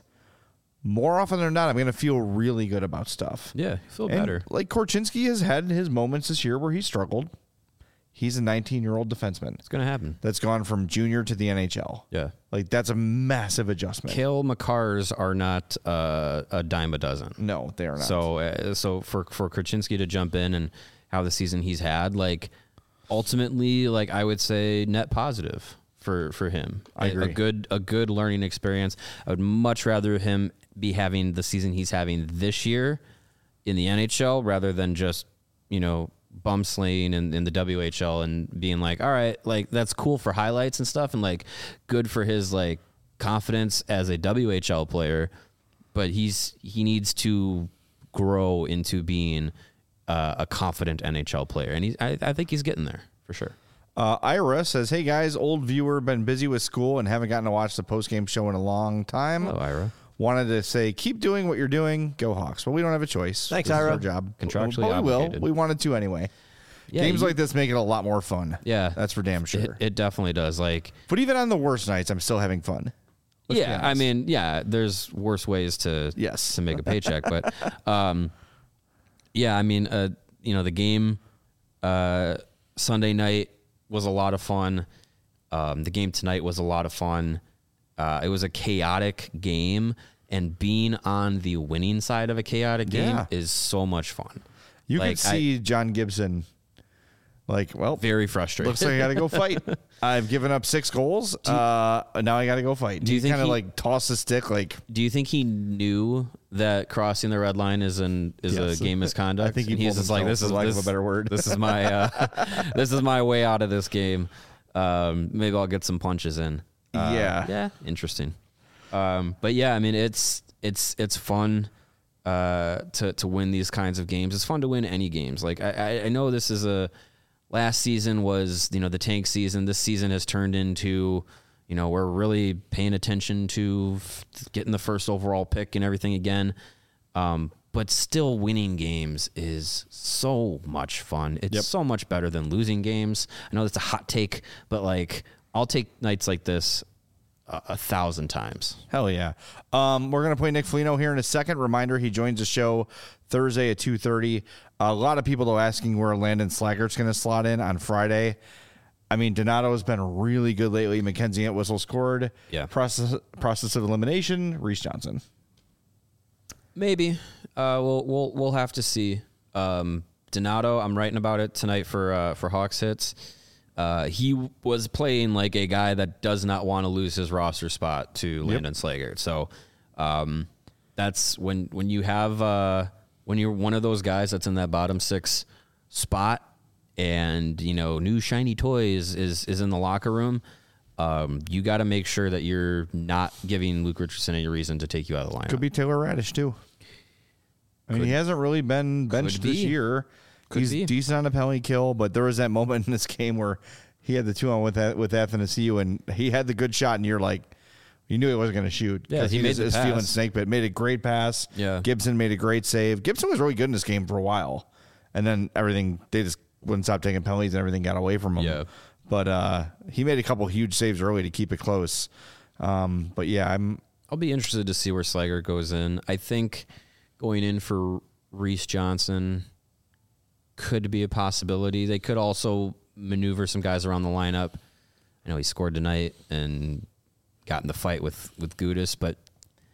more often than not, I'm going to feel really good about stuff. Yeah, feel and better. Like Korchinski has had his moments this year where he struggled. He's a nineteen-year-old defenseman. It's going to happen. That's gone from junior to the N H L. Yeah. Like, that's a massive adjustment. Cale Makars are not uh, a dime a dozen. No, they are not. So, uh, so for, for Korchinski to jump in and how the season he's had, like, ultimately, like, I would say net positive for, for him. I agree. A good, a good learning experience. I would much rather him be having the season he's having this year in the N H L rather than just, you know, bum slaying in, in the W H L and being like, all right, like that's cool for highlights and stuff and like good for his like confidence as a W H L player, but he's he needs to grow into being uh, a confident N H L player, and he's I, I think he's getting there for sure. Uh, Ira says, hey guys, old viewer, been busy with school and haven't gotten to watch the post-game show in a long time. Hello, Ira. Wanted to say, keep doing what you're doing. Go Hawks. Well, we don't have a choice. Thanks, This is Ira. our job. Contractually but we will. obligated. We wanted to anyway. Yeah, Games you- like this make it a lot more fun. Yeah, That's for damn sure. It, it definitely does. Like, But even on the worst nights, I'm still having fun. Let's be yeah, I honest. mean, yeah, there's worse ways to Yes. to make a paycheck, but um, yeah, I mean, uh, you know, the game uh, Sunday night was a lot of fun. Um, the game tonight was a lot of fun. Uh, it was a chaotic game, and being on the winning side of a chaotic game Yeah. is so much fun. You Like, could see John Gibson like, well, Very frustrating. looks like I got to go fight. I've given up six goals. uh, now I got to go fight. do you he think kind of he- like toss the stick like, Do you think he knew that crossing the red line is an is Yes. a game misconduct? I think he And he's pulled just like, himself, this is for lack of this, a better word. This is my uh, this is my way out of this game. Um, maybe I'll get some punches in. Uh, Yeah. yeah, interesting. Um, but yeah, I mean, it's it's it's fun uh, to to win these kinds of games. It's fun to win any games. Like I, I, I know this is a last season was you know the tank season. This season has turned into you know we're really paying attention to f- getting the first overall pick and everything again. Um, but still, winning games is so much fun. It's Yep. so much better than losing games. I know that's a hot take, but like I'll take nights like this a, a thousand times. hell yeah. Um, we're going to play Nick Foligno here in a second. Reminder, he joins the show Thursday at two thirty. A lot of people, though, asking where Landon Slaggert's going to slot in on Friday. I mean, Donato's been really good lately. Mackenzie Entwistle scored. Yeah. Process, process of elimination, Reese Johnson. Maybe uh, we'll we'll we'll have to see. Um, Donato, I'm writing about it tonight for uh, for Hawks Hits. Uh, he was playing like a guy that does not want to lose his roster spot to Landon Slaggert. So um, that's when when you have uh, when you're one of those guys that's in that bottom six spot, and you know new shiny toys is is in the locker room. Um, you got to make sure that you're not giving Luke Richardson any reason to take you out of the lineup. Could be Taylor Radish, too. I mean, Could- he hasn't really been benched could this be. year. Could He's be. decent on a penalty kill, but there was that moment in this game where he had the two on with that, with Athanasiou, and he had the good shot, and you're like, you knew he wasn't going to shoot. Yeah, 'cause he made was, the was feeling pass. snake bit. Made a great pass. Yeah. Gibson made a great save. Gibson was really good in this game for a while, and then everything, they just wouldn't stop taking penalties, and everything got away from him. Yeah. But uh, he made a couple huge saves early to keep it close. Um, but yeah, I'm I'll be interested to see where Slager goes in. I think going in for Reese Johnson could be a possibility. They could also maneuver some guys around the lineup. I know he scored tonight and got in the fight with with Gudis, but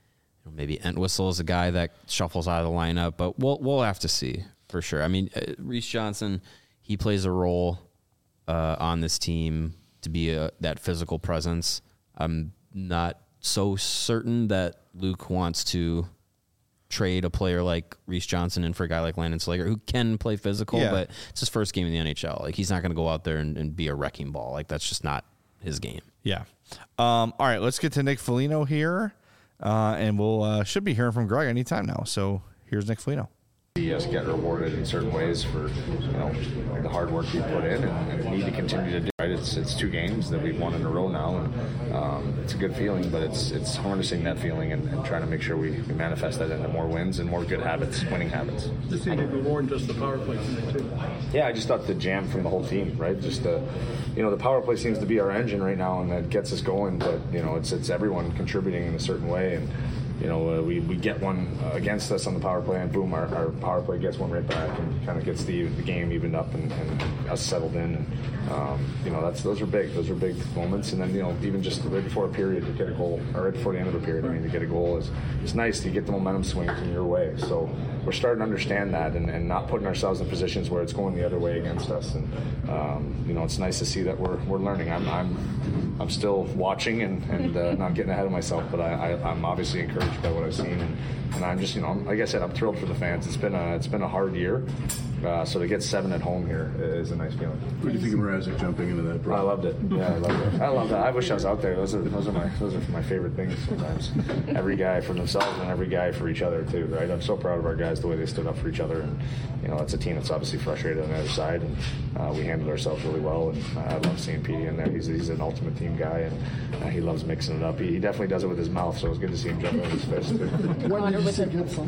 maybe Entwistle is a guy that shuffles out of the lineup, but we'll we'll have to see for sure. I mean, uh, Reese Johnson, he plays a role uh, on this team to be a, that physical presence. I'm not so certain that Luke wants to trade a player like Reese Johnson in for a guy like Landon Slager, who can play physical, yeah. but it's his first game in the N H L. Like, he's not going to go out there and, and be a wrecking ball. Like, that's just not his game. Yeah. Um, all right, let's get to Nick Foligno here, uh, and we'll uh, should be hearing from Greg anytime now. So here's Nick Foligno. See us get rewarded in certain ways for, you know, the hard work we put in and, and need to continue to do. Right, it's it's two games that we've won in a row now, and um, it's a good feeling. But it's it's harnessing that feeling and, and trying to make sure we, we manifest that into more wins and more good habits, winning habits. This seemed more than just the power play tonight too. Yeah, I just thought the jam from the whole team, right? Just the, you know, the power play seems to be our engine right now, and that gets us going. But you know, it's it's everyone contributing in a certain way, and. You know, uh, we, we get one uh, against us on the power play, and boom, our, our power play gets one right back and kind of gets the the game evened up and, and us settled in. And, um, you know, that's those are big. Those are big moments. And then, you know, even just right before a period to get a goal, or right before the end of a period, I mean, to get a goal is it's nice to get the momentum swings in your way. So we're starting to understand that and, and not putting ourselves in positions where it's going the other way against us. And, um, you know, it's nice to see that we're we're learning. I'm I'm, I'm still watching and, and uh, not getting ahead of myself, but I, I, I'm obviously encouraged by what I've seen, and, and I'm just, you know, like I said, I'm thrilled for the fans. It's been a, it's been a hard year, uh, so to get seven at home here is a nice feeling. What do you think of Mrazek jumping into that? I loved it. Yeah, I loved it. I loved it. I wish I was out there. Those are those are my those are my favorite things sometimes. Every guy for themselves and every guy for each other too, right? I'm so proud of our guys the way they stood up for each other, and you know, it's a team that's obviously frustrated on the other side, and uh, we handled ourselves really well. And uh, I love seeing Petey in there. He's he's an ultimate team guy, and uh, he loves mixing it up. He, he definitely does it with his mouth, so it was good to see him jump in his fist. When did you see Gibson?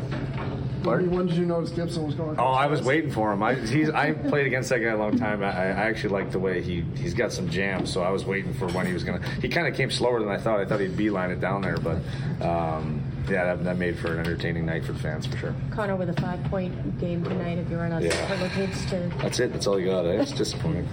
When did you notice Gibson was going? Oh, I was waiting for him. I he's I played against that guy a long time. I, I actually like the way he he's got some jams, so I was waiting for when he was gonna. He kind of came slower than I thought. I thought he'd beeline it down there, but um, yeah, that, that made for an entertaining night for the fans for sure. Connor with a five-point game tonight. If you run on yeah. superlatives to. That's it. That's all you got. Eh? It's disappointing.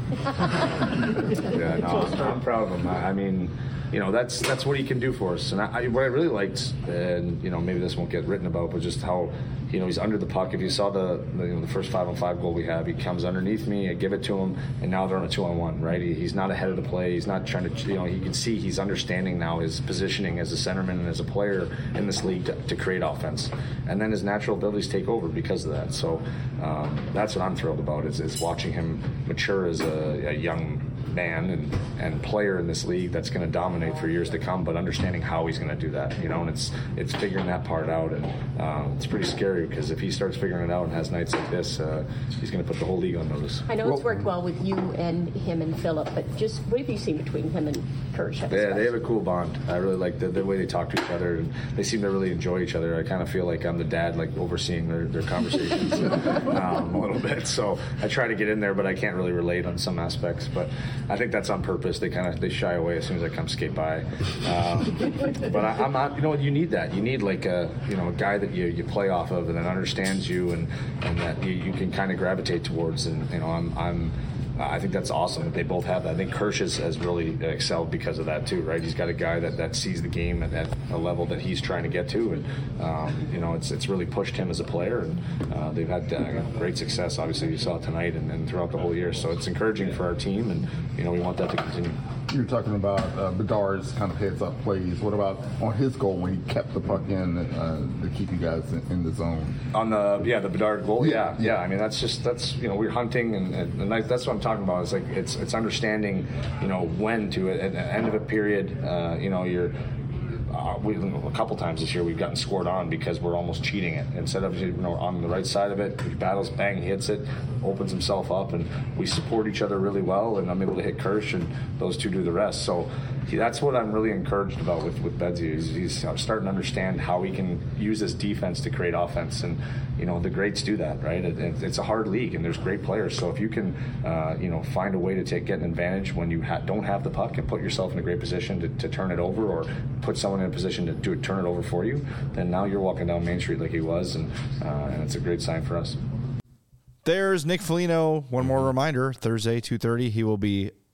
yeah, no, I'm, I'm proud of him. I, I mean. You know, that's that's what he can do for us. And I, what I really liked, and, you know, maybe this won't get written about, but just how, you know, he's under the puck. If you saw the, the, you know, the first five-on-five goal we have, he comes underneath me, I give it to him, and now they're on a two-on-one, right? He, he's not ahead of the play. He's not trying to, you know, you can see he's understanding now his positioning as a centerman and as a player in this league to, to create offense. And then his natural abilities take over because of that. So um, that's what I'm thrilled about, is, is watching him mature as a, a young man and, and player in this league that's going to dominate for years to come, but understanding how he's going to do that, you know, and it's it's figuring that part out, and um, it's pretty scary because if he starts figuring it out and has nights like this, uh, he's going to put the whole league on notice. I know well, it's worked well with you and him and Phillip, but just what have you seen between him and Kursh? Yeah, they have a cool bond. I really like the, the way they talk to each other, and they seem to really enjoy each other. I kind of feel like I'm the dad, like overseeing their, their conversations um, a little bit, so I try to get in there, but I can't really relate on some aspects, but I think that's on purpose. They kind of they shy away as soon as I come skate by. Um, but I, I'm not. You know, you need that. You need like a you know a guy that you, you play off of and that understands you and, and that you, you can kind of gravitate towards. And you know, I'm I'm. I think that's awesome that they both have that. I think Kursh has, has really excelled because of that too, right? He's got a guy that, that sees the game at, at a level that he's trying to get to, and um, you know, it's it's really pushed him as a player, and uh, they've had uh, great success. Obviously, you saw it tonight and, and throughout the whole year. So it's encouraging for our team, and you know, we want that to continue. You're talking about uh, Bedard's kind of heads-up plays. What about on his goal when he kept the puck in uh, to keep you guys in, in the zone? On the yeah, the Bedard goal. Yeah, yeah. yeah. I mean, that's just that's you know we're hunting, and, and that's what I'm talking about. It's like it's it's understanding, you know, when to at the end of a period. Uh, you know, you're. Uh, we, a couple times this year we've gotten scored on because we're almost cheating it. Instead of you know on the right side of it, he battles, bang, he hits it, opens himself up, and we support each other really well. And I'm able to hit Kursh, and those two do the rest. So he, that's what I'm really encouraged about with with Bedsy. He's, he's starting to understand how he can use his defense to create offense, and you know the greats do that, right? It, it, it's a hard league, and there's great players. So if you can, uh, you know, find a way to take get an advantage when you ha- don't have the puck and put yourself in a great position to, to turn it over, or put someone in a position to do it, turn it over for you, then now you're walking down Main Street like he was, and uh, and it's a great sign for us. There's Nick Foligno. One more reminder: Thursday, two thirty, he will be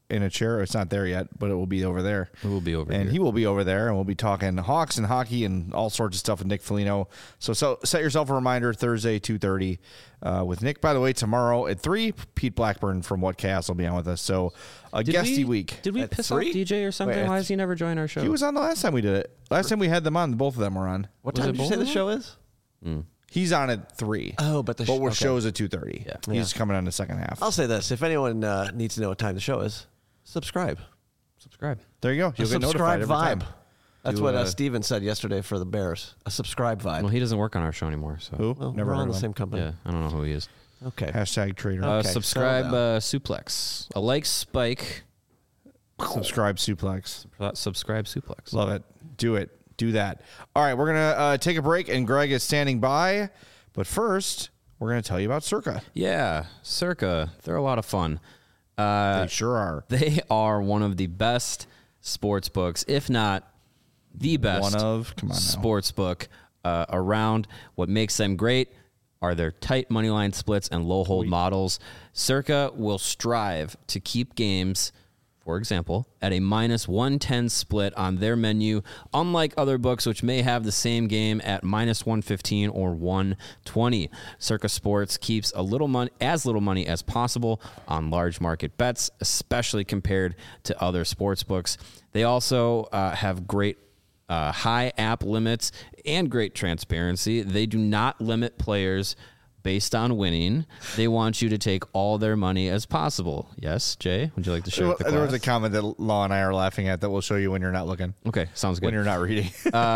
in a chair. It's not there yet, but it will be over there. It will be over and here. he will be over there, and we'll be talking Hawks and hockey and all sorts of stuff with Nick Foligno. So, so set yourself a reminder, Thursday, two thirty uh, with Nick. By the way, tomorrow at three, Pete Blackburn from What Chaos will be on with us. So a Did guesty we, week. Did we At piss three? off D J or something? Wait, Why does he never join our show? He was on the last time we did it. Last time we had them on, both of them were on. What Was time it did you both say of the them? show is? He's on at three. Oh, but the sh- but we're okay. shows at two thirty. Yeah. He's Yeah. coming on the second half. I'll say this: if anyone uh, needs to know what time the show is, subscribe. Subscribe. There you go. A You'll get subscribe notified every vibe. time. That's Do, what uh, uh, Steven said yesterday for the Bears. A subscribe vibe. Well, he doesn't work on our show anymore. So Who? Well, Never we're heard on of the him. same company. yeah, I don't know who he is. Okay. Hashtag trader. Uh, Okay, subscribe settle uh, Suplex. A like spike. Subscribe suplex. Uh, subscribe Suplex. Love it. Do it. Do that. All right, we're going to uh, take a break, and Greg is standing by. But first, we're going to tell you about Circa. Yeah, Circa. They're a lot of fun. Uh, They sure are. They are one of the best sports books, if not the best One of, come on now. sports book uh, around. What makes them great are their tight money line splits and low hold models. Circa will strive to keep games, for example, at a minus one ten split on their menu, unlike other books which may have the same game at minus one fifteen or one twenty. Circa Sports keeps a little money, as little money as possible on large market bets, especially compared to other sports books. They also uh, have great uh, high app limits and great transparency. They do not limit players based on winning. They want you to take all their money as possible. Yes, Jay, would you like to share with the There was a class? comment that Law and I are laughing at that we'll show you when you're not looking. Okay, sounds good. When you're not reading.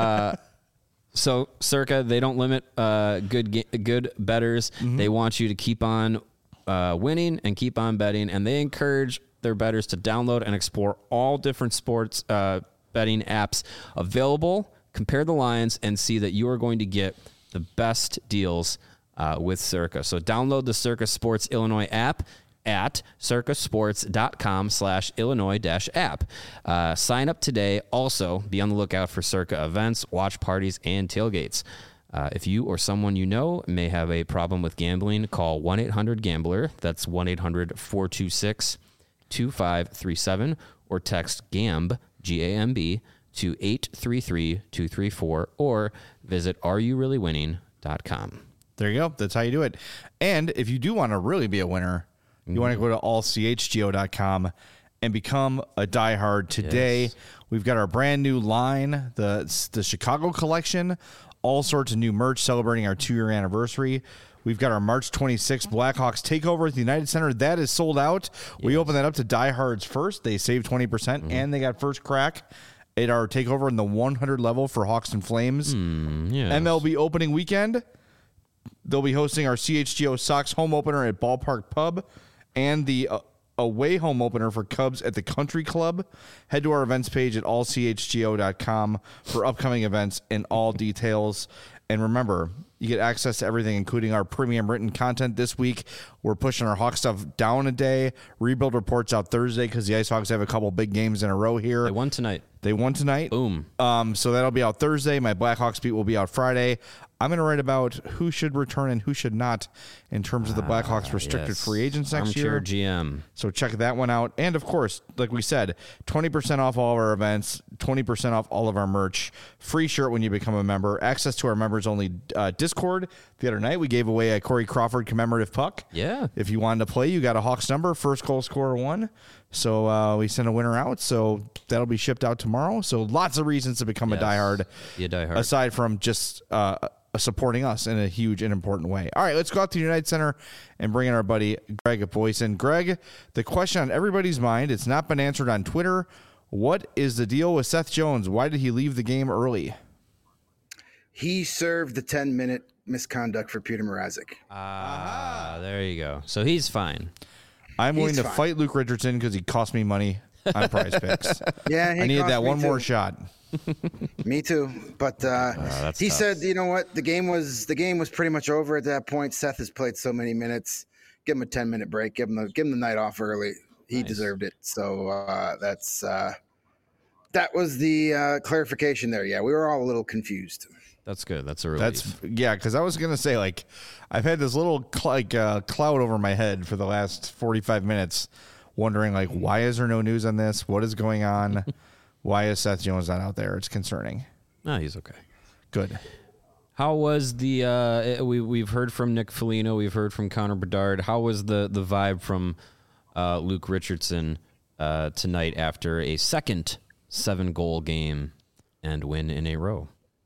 So, Circa, they don't limit uh, good ga- good bettors. They want you to keep on uh, winning and keep on betting, and they encourage their bettors to download and explore all different sports uh, betting apps available, compare the lines, and see that you are going to get the best deals uh, with Circa. So, download the Circa Sports Illinois app at circasports.com slash Illinois dash app. Uh, sign up today. Also, be on the lookout for Circa events, watch parties, and tailgates. Uh, if you or someone you know may have a problem with gambling, call one eight hundred gambler. That's one eight hundred four two six two five three seven or text GAMB, G A M B, to eight three three two three four or visit are you really winning dot com. There you go. That's how you do it. And if you do want to really be a winner, you want to go to all c h g o dot com and become a diehard today. Yes. We've got our brand new line, the the Chicago collection, all sorts of new merch celebrating our two-year anniversary. We've got our March twenty-sixth Blackhawks takeover at the United Center. That is sold out. We open that up to diehards first. They save twenty percent, Mm-hmm. and they got first crack at our takeover in the one hundred level for Hawks and Flames. Mm, yes. M L B opening weekend. They'll be hosting our C H G O Sox home opener at Ballpark Pub and the uh, away home opener for Cubs at the Country Club. Head to our events page at all c h g o dot com for upcoming events and all details. And remember, you get access to everything, including our premium written content this week. We're pushing our Hawk stuff down a day. Rebuild reports out Thursday because the Ice Hawks have a couple big games in a row here. They won tonight. They won tonight. Boom. Um, so that'll be out Thursday. My Blackhawks beat will be out Friday. I'm going to write about who should return and who should not in terms of the Blackhawks restricted Yes. free agents next Armchair year. G M. So check that one out. And of course, like we said, twenty percent off all of our events, twenty percent off all of our merch, free shirt when you become a member, access to our members only uh, Discord. The other night we gave away a Corey Crawford commemorative puck. Yeah. If you wanted to play, you got a Hawks number, first goal scorer one. So uh, we sent a winner out. So that'll be shipped out tomorrow. So lots of reasons to become Yes. a diehard. Be a diehard. Aside from just uh, supporting us in a huge and important way. All right, let's go out to the United Center and bring in our buddy Greg Boyson. Greg, the question on everybody's mind, it's not been answered on Twitter. What is the deal with Seth Jones? Why did he leave the game early? He served the ten-minute misconduct for Peter Mrazek. Ah, there you go. So he's fine. I'm willing He's to fine. fight Luke Richardson because he cost me money on Prize Picks. Yeah, he I needed cost that me one more too. shot. Me too. But uh, that's he tough. said, you know what? The game was the game was pretty much over at that point. Seth has played so many minutes. Give him a ten-minute break. Give him the give him the night off early. He Nice. deserved it. So uh, that's uh, that was the uh, clarification there. Yeah, we were all a little confused. That's good. That's a relief. That's yeah, because I was gonna say like I've had this little cl- like uh, cloud over my head for the last forty-five minutes, wondering like, why is there no news on this? What is going on? Why is Seth Jones not out there? It's concerning. No, he's okay. Good. How was the? Uh, we we've heard from Nick Foligno. We've heard from Connor Bedard. How was the the vibe from uh, Luke Richardson uh, tonight after a second seven goal game and win in a row?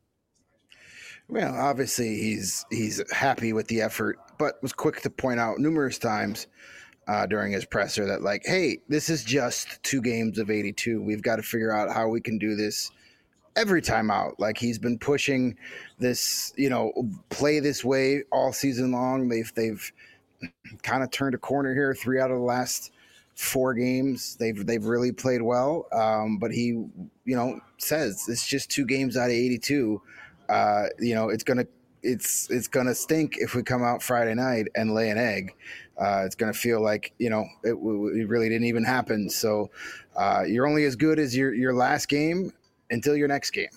Well, obviously he's he's happy with the effort, but was quick to point out numerous times uh, during his presser that like, hey, this is just two games of eighty-two. We've got to figure out how we can do this every time out. Like he's been pushing this, you know, play this way all season long. They've they've kind of turned a corner here. Three out of the last four games, they've they've really played well. Um, but he, you know, says it's just two games out of eighty-two. Uh, you know, it's gonna it's it's gonna stink if we come out Friday night and lay an egg. Uh, it's gonna feel like, you know, it, it really didn't even happen. So uh, you're only as good as your your last game until your next game.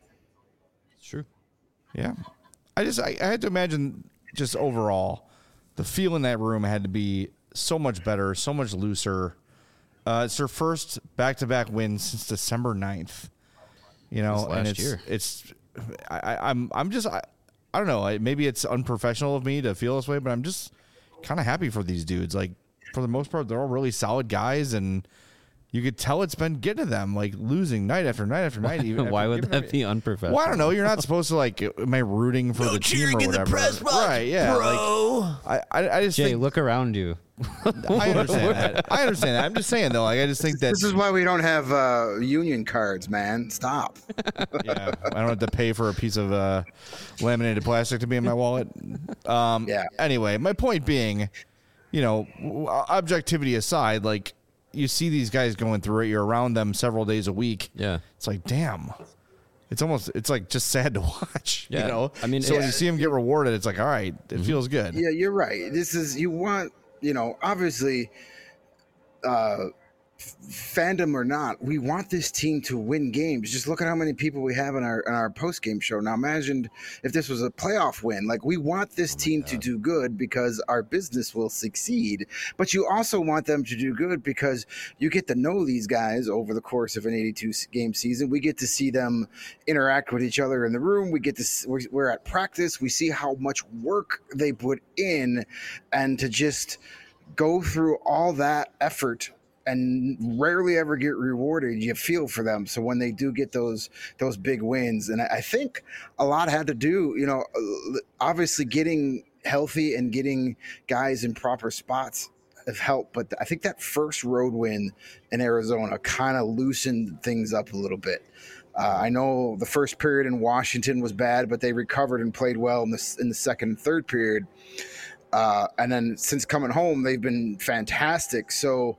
It's true. Yeah, I just I, I had to imagine just overall the feel in that room had to be so much better, so much looser. Uh, it's their first back-to-back win since December ninth. You know, last and it's year. it's. I, I'm I'm just I, I don't know. Maybe it's unprofessional of me to feel this way, but I'm just kind of happy for these dudes. Like for the most part, they're all really solid guys, and you could tell it's been getting to them, like losing night after night after night. Even Why after, would that be unprofessional? Well, I don't know. You're not supposed to like. Am I rooting for No the team cheering or in the whatever? press box, right? Yeah. bro. Like, I, I I just Jay, think look around you. I understand that. I understand that. I'm just saying though. Like I just think that This is why we don't have uh, union cards, man. Stop. yeah, I don't have to pay for a piece of uh, laminated plastic to be in my wallet. Um, Yeah. Anyway, my point being, you know, w- objectivity aside, like you see these guys going through it. You're around them several days a week. Yeah. It's like, damn. It's almost. It's like just sad to watch. Yeah. You know. I mean, so when yeah. you see them get rewarded, it's like, all right, it Mm-hmm. feels good. Yeah, you're right. This is, you want, you know, obviously, uh, f- fandom or not, we want this team to win games. Just look at how many people we have in our in our post game show. Now, imagine if this was a playoff win. Like, we want this team to do good because our business will succeed. But you also want them to do good because you get to know these guys over the course of an eighty-two game season. We get to see them interact with each other in the room. We get to s- we're, we're at practice. We see how much work they put in, and to just go through all that effort and rarely ever get rewarded, you feel for them. So when they do get those those big wins, and I I think a lot had to do, you know, obviously getting healthy and getting guys in proper spots have helped. But I think that first road win in Arizona kind of loosened things up a little bit. Uh, I know the first period in Washington was bad, but they recovered and played well in the in the second and third period. Uh, and then since coming home, they've been fantastic. So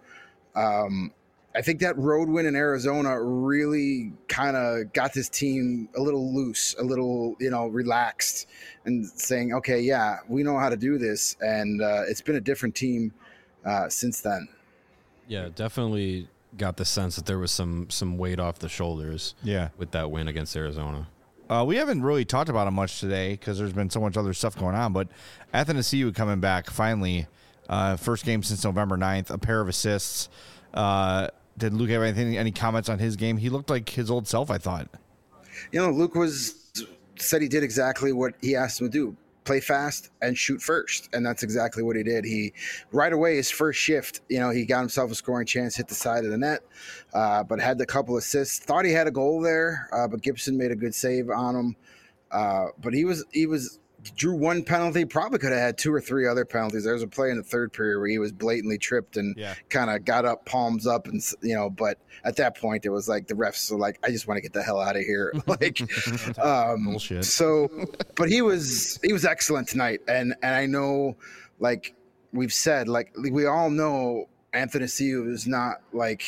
um, I think that road win in Arizona really kind of got this team a little loose, a little, you know, relaxed, and saying, okay, yeah, we know how to do this. And uh, it's been a different team uh, since then. Yeah, definitely got the sense that there was some some weight off the shoulders. Yeah. With that win against Arizona. Uh, we haven't really talked about it much today because there's been so much other stuff going on, but Athanasiou coming back finally, uh, first game since November ninth, a pair of assists. Uh, did Luke have anything, any comments on his game? He looked like his old self, I thought. You know, Luke was said he did exactly what he asked him to do. Play fast and shoot first. And that's exactly what he did. He, right away, his first shift, you know, he got himself a scoring chance, hit the side of the net, uh, but had a couple assists. Thought he had a goal there, uh, but Gibson made a good save on him. Uh, but he was, he was, drew one penalty, probably could have had two or three other penalties. There was a play in the third period where he was blatantly tripped and Yeah. kind of got up, palms up, and, you know, but at that point, it was like the refs were like, I just want to get the hell out of here. Like, um, Bullshit. So, but he was, he was excellent tonight. And, and I know, like we've said, like we all know Athanasiou is not like,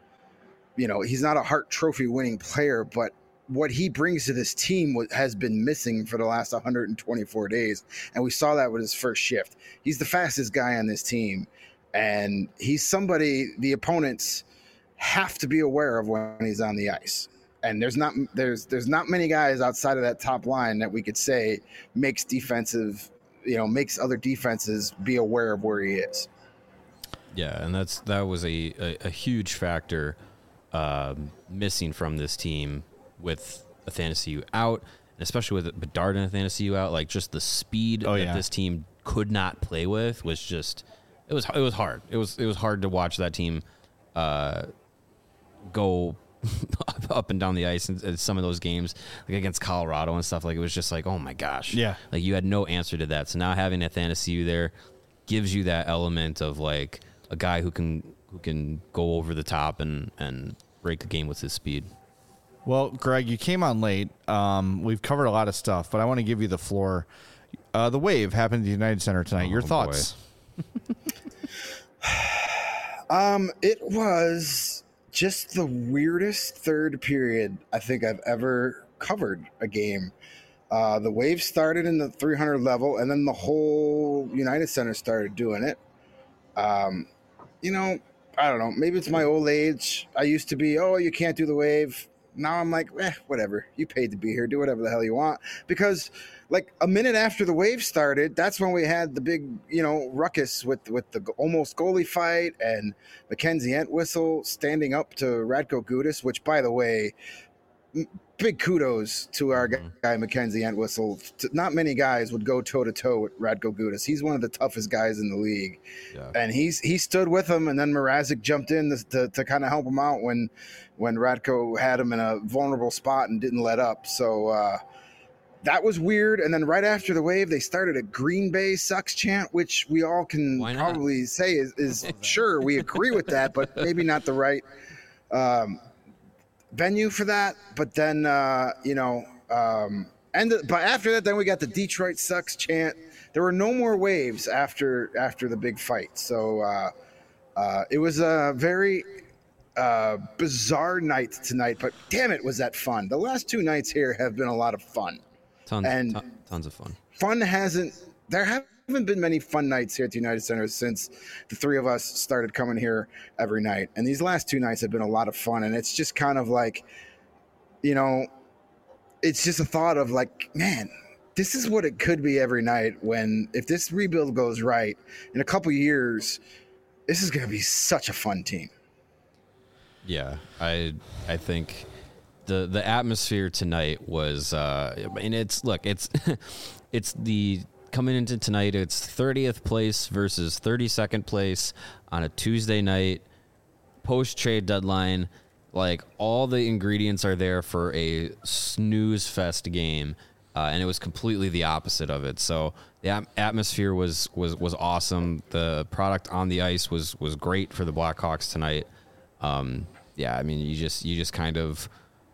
you know, he's not a Hart Trophy winning player, but what he brings to this team wa- has been missing for the last one hundred twenty-four days. And we saw that with his first shift. He's the fastest guy on this team. And he's somebody the opponents have to be aware of when he's on the ice. And there's not there's there's not many guys outside of that top line that we could say makes defensive, you know, makes other defenses be aware of where he is. Yeah, and that's that was a, a, a huge factor um, missing from this team with Athanasiou out, and especially with Bedard and Athanasiou out. Like just the speed oh, that yeah. this team could not play with was just it was it was hard. It was it was hard to watch that team uh, go up and down the ice in, in some of those games, like against Colorado and stuff. Like it was just like, oh my gosh, yeah, like you had no answer to that. So now having Athanasiou there gives you that element of like a guy who can who can go over the top and and break the game with his speed. Well, Greg, you came on late. Um, we've covered a lot of stuff, but I want to give you the floor. Uh, the Wave happened at the United Center tonight. Oh, Your thoughts? um, it was just the weirdest third period I think I've ever covered a game. Uh, the Wave started in the three hundred level, and then the whole United Center started doing it. Um, you know, I don't know. Maybe it's my old age. I used to be, oh, you can't do the Wave. Now I'm like, eh, whatever. You paid to be here. Do whatever the hell you want. Because, like, a minute after the Wave started, that's when we had the big, you know, ruckus with, with the almost goalie fight and Mackenzie Entwistle standing up to Radko Gudas, which, by the way, big kudos to our guy, Mackenzie Entwistle. Not many guys would go toe-to-toe with Radko Gudas. He's one of the toughest guys in the league. Yeah. And he's he stood with him, and then Mrazek jumped in to, to, to kind of help him out when when Radko had him in a vulnerable spot and didn't let up. So uh, that was weird. And then right after the Wave, they started a Green Bay sucks chant, which we all can probably say is, is sure, we agree with that, but maybe not the right um, – venue for that. But then uh you know um and the, but after that, then we got the Detroit sucks chant. There were no more Waves after after the big fight. So uh uh it was a very uh bizarre night tonight, but damn it, was that fun. The last two nights here have been a lot of fun. Tons and ton, tons of fun. Fun hasn't there have haven't been many fun nights here at the United Center since the three of us started coming here every night. And these last two nights have been a lot of fun. And it's just kind of like, you know, it's just a thought of like, man, this is what it could be every night when, if this rebuild goes right in a couple years, this is going to be such a fun team. Yeah, I I think the the atmosphere tonight was, uh, and it's, look, it's it's the, coming into tonight, it's thirtieth place versus thirty-second place on a Tuesday night, post-trade deadline. Like, all the ingredients are there for a snooze fest game, uh, and it was completely the opposite of it. So the at- atmosphere was, was was awesome. The product on the ice was was great for the Blackhawks tonight. Um, yeah, I mean, you just you just kind of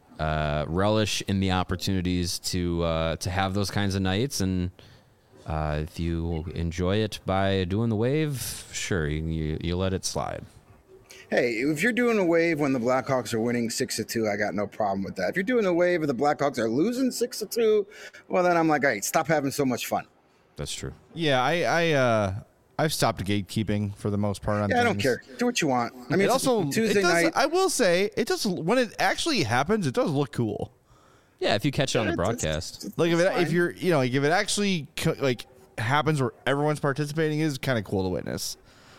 uh, relish in the opportunities to uh, to have those kinds of nights. And Uh, if you enjoy it by doing the Wave, sure, you, you you let it slide. Hey, if you're doing a Wave when the Blackhawks are winning six to two, I got no problem with that. If you're doing a Wave and the Blackhawks are losing six to two, well, then I'm like, hey, stop having so much fun. That's true. Yeah, I I uh, I've stopped gatekeeping for the most part on Yeah, things. I don't care. Do what you want. I mean, it it's also Tuesday it does, night. I will say it does when it actually happens. It does look cool. Yeah, if you catch it on the broadcast, like if it, fine. if you're you know like if it actually co- like happens where everyone's participating, is kind of cool to witness.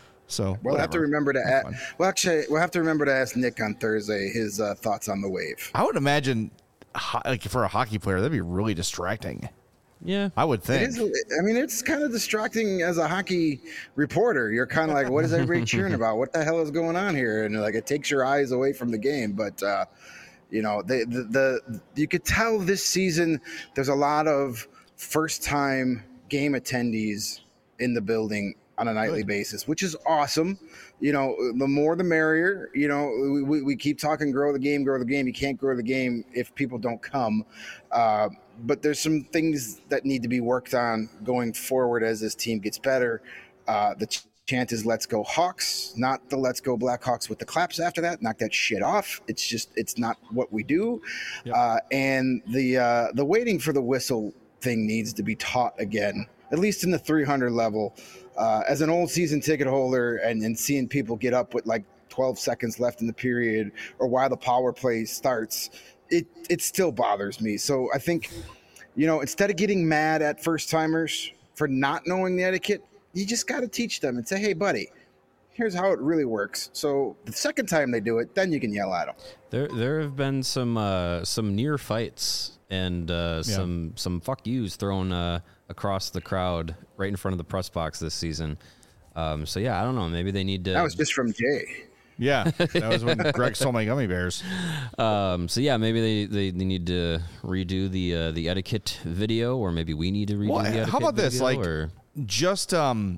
So we'll whatever. have to remember to ask. Well, actually, we'll have to remember to ask Nick on Thursday his uh, thoughts on the Wave. I would imagine, ho- like for a hockey player, that'd be really distracting. Yeah, I would think. It is, I mean, it's kind of distracting as a hockey reporter. You're kind of like, what is everybody cheering about? What the hell is going on here? And like, it takes your eyes away from the game. But uh, you know, the, the the you could tell this season there's a lot of first time game attendees in the building on a nightly Good. basis, which is awesome. You know, the more the merrier. You know, we, we keep talking grow the game, grow the game. You can't grow the game if people don't come. Uh, but there's some things that need to be worked on going forward as this team gets better. Uh, the ch- chant is let's go Hawks, not the let's go Blackhawks with the claps after that. Knock that shit off. It's just, it's not what we do. Yep. Uh, and the uh, the waiting for the whistle thing needs to be taught again, at least in the three hundred level. Uh, as an old season ticket holder and, and seeing people get up with like twelve seconds left in the period or while the power play starts, it, it still bothers me. So I think, you know, instead of getting mad at first timers for not knowing the etiquette, you just got to teach them and say, hey, buddy, here's how it really works. So the second time they do it, then you can yell at them. There, there have been some uh, some near fights and uh, Yeah. some some fuck yous thrown uh, across the crowd right in front of the press box this season. Um, so yeah, I don't know. Maybe they need to. That was just from Jay. Yeah, that was when Greg stole my gummy bears. Um, so yeah, maybe they, they, they need to redo the uh, the etiquette video, or maybe we need to redo Well, the etiquette how about this? video, Like, or? just um,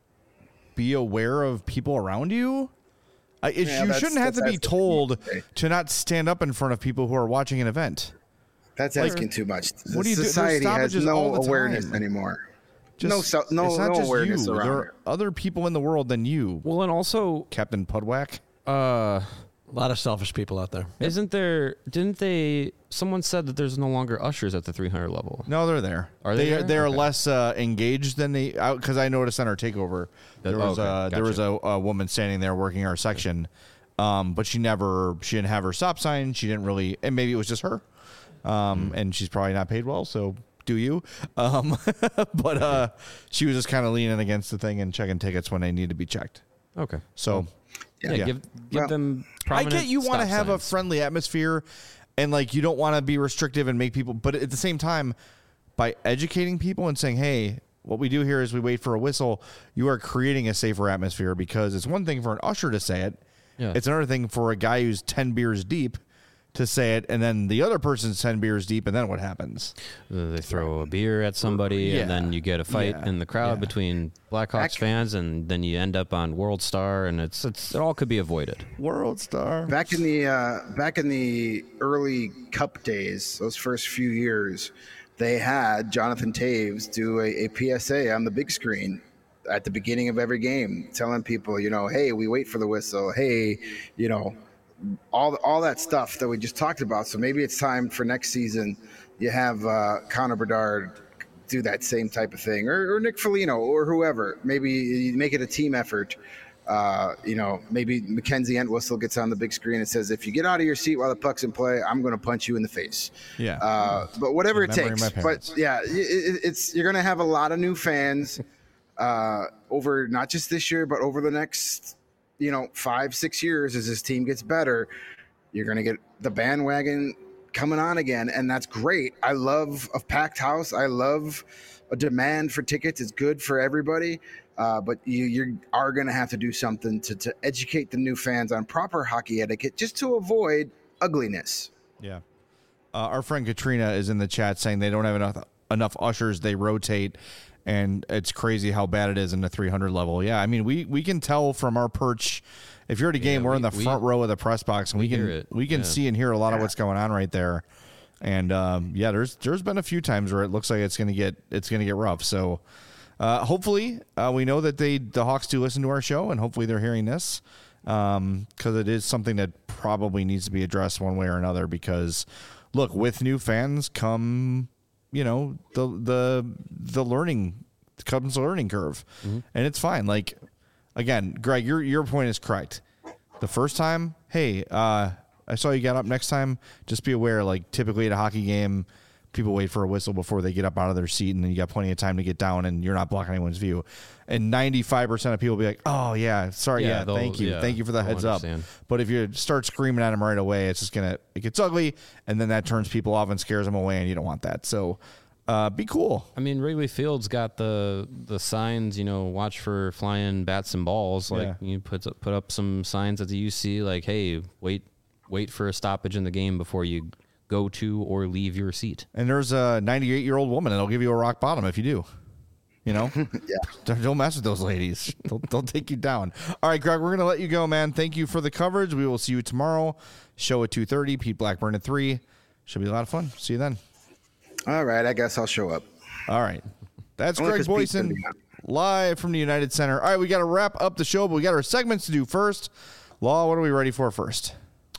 be aware of people around you. Uh, it, Yeah, you that's- shouldn't have to that's be asking told too much. to not stand up in front of people who are watching an event. That's Like, asking too much. what do you do? There's Society has stoppages all no the awareness time. anymore. Just, no, so, no, it's not no just awareness you. around There it. are other people in the world than you. Well, and also Captain Pudwack. Uh, A lot of selfish people out there. Isn't there? Didn't they? Someone said that there's no longer ushers at the three hundred level. No, they're there. Are they? They there? are, they are Okay. less uh, engaged than they because I noticed on our takeover That- there was okay, uh, there was a, a woman standing there working our section, um, but she never she didn't have her stop sign. She didn't really, and maybe it was just her, um, and she's probably not paid well. So do you? Um, but uh, she was just kind of leaning against the thing and checking tickets when they need to be checked. Okay. So Yeah, yeah. give give Well, them. I get you want to stop have a signs. friendly atmosphere and like you don't want to be restrictive and make people, but at the same time, by educating people and saying, hey, what we do here is we wait for a whistle, you are creating a safer atmosphere because it's one thing for an usher to say it. Yeah. It's another thing for a guy who's ten beers deep to say it, and then the other person's ten beers deep, and then what happens? Uh, They throw a beer at somebody, Yeah. and then you get a fight Yeah. in the crowd Yeah. between Blackhawks Back- fans, and then you end up on World Star, and it's it's it all could be avoided. World Star. Back in the uh, back in the early Cup days, those first few years, they had Jonathan Taves do a, a P S A on the big screen at the beginning of every game, telling people, you know, hey, we wait for the whistle. Hey, you know, all all that stuff that we just talked about. So maybe it's time for next season. You have uh, Connor Bedard do that same type of thing, or, or Nick Foligno, or whoever. Maybe you make it a team effort. Uh, you know, maybe Mackenzie Entwistle gets on the big screen and says, if you get out of your seat while the puck's in play, I'm going to punch you in the face. Yeah. Uh, but whatever it Remembering takes. my parents. But yeah, it, it- it's you're going to have a lot of new fans uh, over not just this year, but over the next, you know, five, six years as this team gets better. You're going to get the bandwagon coming on again, and that's great. I love a packed house. I love a demand for tickets. It's good for everybody. Uh, but you you are going to have to do something to, to educate the new fans on proper hockey etiquette just to avoid ugliness. Yeah. Uh, our friend Katrina is in the chat saying they don't have enough enough ushers. They rotate, and it's crazy how bad it is in the three hundred level. Yeah, I mean, we, we can tell from our perch. If you're at a game, Yeah, we're we- in the we- front row of the press box, and we, we can hear it. we can Yeah. see and hear a lot of what's going on right there. And um, yeah, there's there's been a few times where it looks like it's gonna get it's gonna get rough. So uh, hopefully uh, we know that they the Hawks do listen to our show, and hopefully they're hearing this because it is something that probably needs to be addressed one way or another. Because look, with new fans come you know the the the learning comes the learning curve, Mm-hmm. and it's fine. Like again, Greg, your your point is correct. The first time, hey, uh, I saw you got up. Next time, just be aware, like typically at a hockey game, people wait for a whistle before they get up out of their seat, and then you got plenty of time to get down, and you're not blocking anyone's view. And ninety-five percent of people will be like, oh, yeah, sorry, Yeah, yeah, they'll- thank you. yeah, thank you for the they'll heads up. understand. But if you start screaming at them right away, it's just going to, it gets ugly, and then that turns people off and scares them away, and you don't want that. So uh, be cool. I mean, Wrigley Field's got the the signs, you know, watch for flying bats and balls. Like Yeah. you put up, put up some signs at the U C, like, hey, wait wait for a stoppage in the game before you go to or leave your seat. And there's a ninety-eight-year-old woman that'll give you a rock bottom if you do. You know? Yeah. Don't, don't mess with those ladies. They'll, they'll take you down. All right, Greg, we're going to let you go, man. Thank you for the coverage. We will see you tomorrow. Show at two thirty. Pete Blackburn at three. Should be a lot of fun. See you then. All right, I guess I'll show up. All right. That's Only Greg 'cause Pete's gonna Boyson be on. live from the United Center. All right, we got to wrap up the show, but we got our segments to do first. Law, what are we ready for first?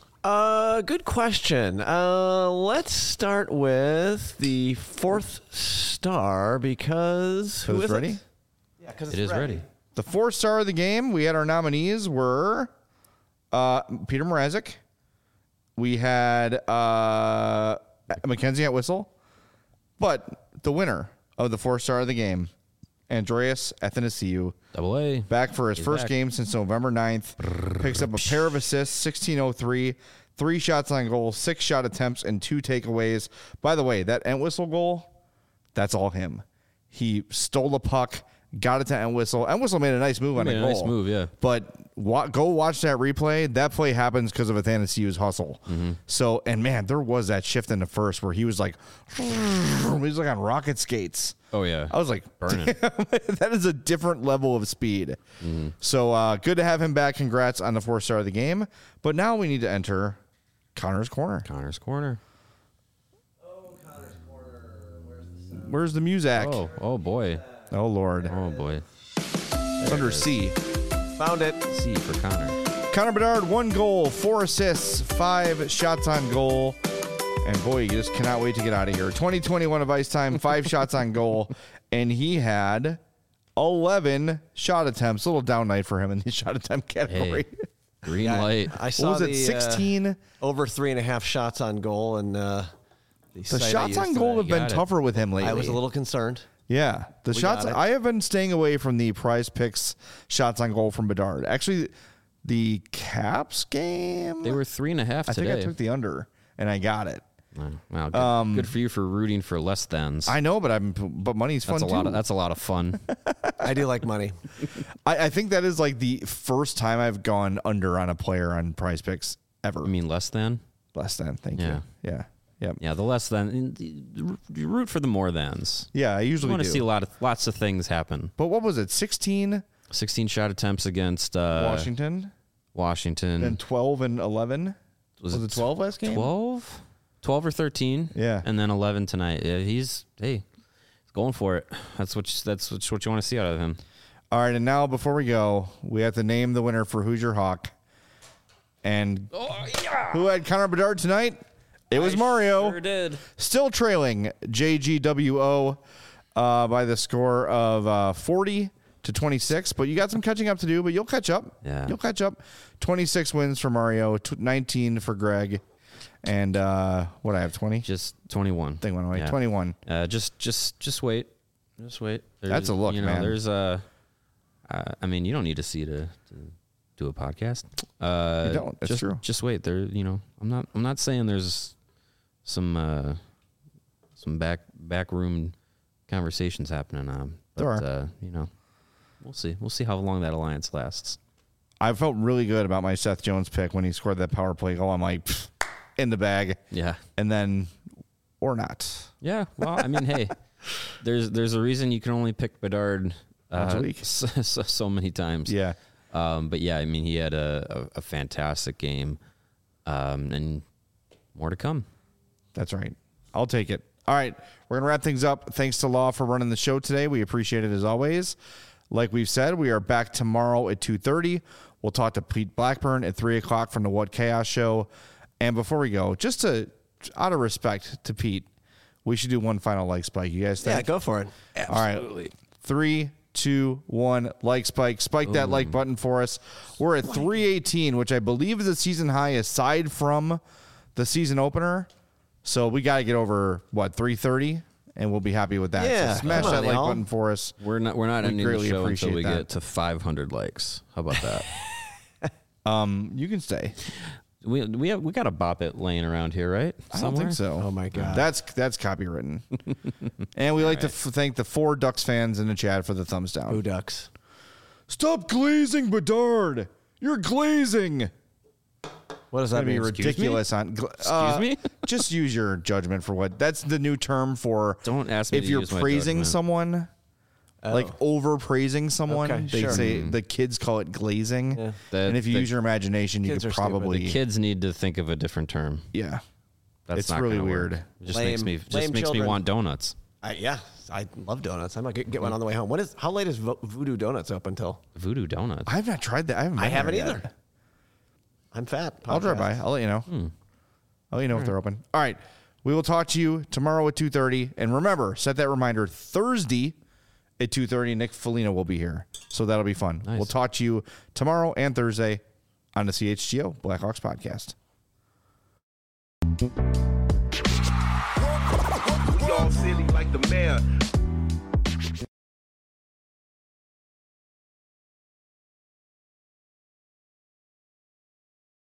Uh, good question. Uh, let's start with the fourth star because who Who's is ready? It? Yeah, because It is ready. The fourth star of the game, we had our nominees were uh, Peter Mrazek. We had uh, Mackenzie Entwistle. But the winner of the fourth star of the game Andreas Athanasiou. Double A. Back for his He's first back. game since November ninth. Picks up a pair of assists, sixteen oh three, three shots on goal, six shot attempts, and two takeaways. By the way, that Entwistle goal, that's all him. He stole the puck, got it to Entwistle. Entwistle made a nice move He on made a a goal. nice move, yeah. But wa- go watch that replay. That play happens because of Athanasiou's hustle. Mm-hmm. So, and man, there was that shift in the first where he was like, he was like on rocket skates. Oh, yeah. I was like, Burning. damn, that is a different level of speed. Mm-hmm. So uh, good to have him back. Congrats on the fourth star of the game. But now we need to enter Connor's Corner. Connor's Corner. Where's the music? Oh, oh boy. Oh, Lord. Oh, boy. It's under C. Found it. C for Connor. Connor Bedard, one goal, four assists, five shots on goal. And boy, you just cannot wait to get out of here. twenty twenty-one of ice time, five shots on goal. And he had eleven shot attempts. A little down night for him in the shot attempt category. Hey, green light. I saw was it, the, sixteen? Uh, over three and a half shots on goal, and uh, the, The site I shots on used goal today. have been Got it. tougher with him lately. I was a little concerned. Yeah, the We shots. got it. I have been staying away from the Prize Picks shots on goal from Bedard. Actually, the Caps game. They were three and a half I today. think I took the under, and I got it. Oh, wow, good, Um, good for you for rooting for less thans. I know, but I'm. But money's fun that's a too. lot. Of, that's a lot of fun. I do like money. I, I think that is like the first time I've gone under on a player on Prize Picks ever. I mean, less than. Less than. Thank Yeah. you. Yeah. Yep. Yeah, the less than. You root for the more thans. Yeah, I You usually want to do. see a lot of lots of things happen. But what was it? sixteen Sixteen shot attempts against uh, Washington, Washington. and twelve and eleven. Was, it twelve last game? Twelve. Twelve or thirteen. Yeah. And then eleven tonight. Yeah, he's hey, he's going for it. That's what you, that's what you, what you want to see out of him. All right, and now before we go, we have to name the winner for Who's Your Hawk. And who had Connor Bedard tonight? It was I Mario. Sure did. Still trailing J G W O uh, by the score of uh, forty to twenty-six. But you got some catching up to do, but you'll catch up. Yeah. You'll catch up. twenty-six wins for Mario, t- nineteen for Greg. And uh, what I have, twenty? Just twenty-one. Thing went away. Yeah. twenty-one. Uh, just just just wait. Just wait. There's, That's a look, you know, man. There's a. Uh, I mean, you don't need to see to, to do a podcast. Uh, You don't. That's just, true. Just wait. There. You know, I'm not. I'm not saying there's some uh, some back back room conversations happening. Um, but, There are. Uh, you know, we'll see. We'll see how long that alliance lasts. I felt really good about my Seth Jones pick when he scored that power play goal. I'm like, pfft, in the bag. Yeah. And then, or not. Yeah. Well, I mean, hey, there's there's a reason you can only pick Bedard Once a uh, week. so, so, so many times. Yeah. Um, but yeah, I mean, he had a, a, a fantastic game, um, and more to come. That's right. I'll take it. All right. We're going to wrap things up. Thanks to Law for running the show today. We appreciate it as always. Like we've said, we are back tomorrow at two thirty. We'll talk to Pete Blackburn at three o'clock from the What Chaos Show. And before we go, just to, out of respect to Pete, we should do one final like spike. You guys think? Yeah, go for it. All right. Three, two, one, like spike. Spike that like button for us. We're at three eighteen, which I believe is a season high aside from the season opener. So we got to get over, what, three thirty? And we'll be happy with that. Yeah, so smash come on, that like y'all. button for us. We're not we're not We ending the greatly show until appreciate we that. get to five hundred likes. How about that? Um, you can stay. we we have we got a bop it laying around here, right? I don't think so. Oh, my God. That's that's copywritten. And we like to f- thank the four Ducks fans in the chat for the thumbs down. Who Ducks? Stop glazing, Bedard. You're glazing. What does that That'd be mean? ridiculous. On gl- Excuse uh, me? Just use your judgment for what. That's the new term for. Don't ask me if to you're use my praising judgment. someone, like over praising someone. Okay, they sure. say the kids call it glazing. Yeah. The- and if you the use your imagination, you kids could are stupid. probably. The kids need to think of a different term. Yeah, That's It's not really gonna work. weird. It just Lame- makes me just lame makes children. me want donuts. I, yeah, I love donuts. I might get, get one on the way home. What is? How late is Vo- Voodoo Donuts open till? Voodoo donuts. I have not tried that. I haven't. I been haven't there either. yet. I'm fat. I'll drive by. Podcast. I'll let you know. Hmm. I'll let you know if they're open. All right. We will talk to you tomorrow at two thirty. And remember, set that reminder Thursday at two thirty. Nick Foligno will be here. So that'll be fun. Nice. We'll talk to you tomorrow and Thursday on the C H G O Blackhawks podcast. We all silly like the mayor.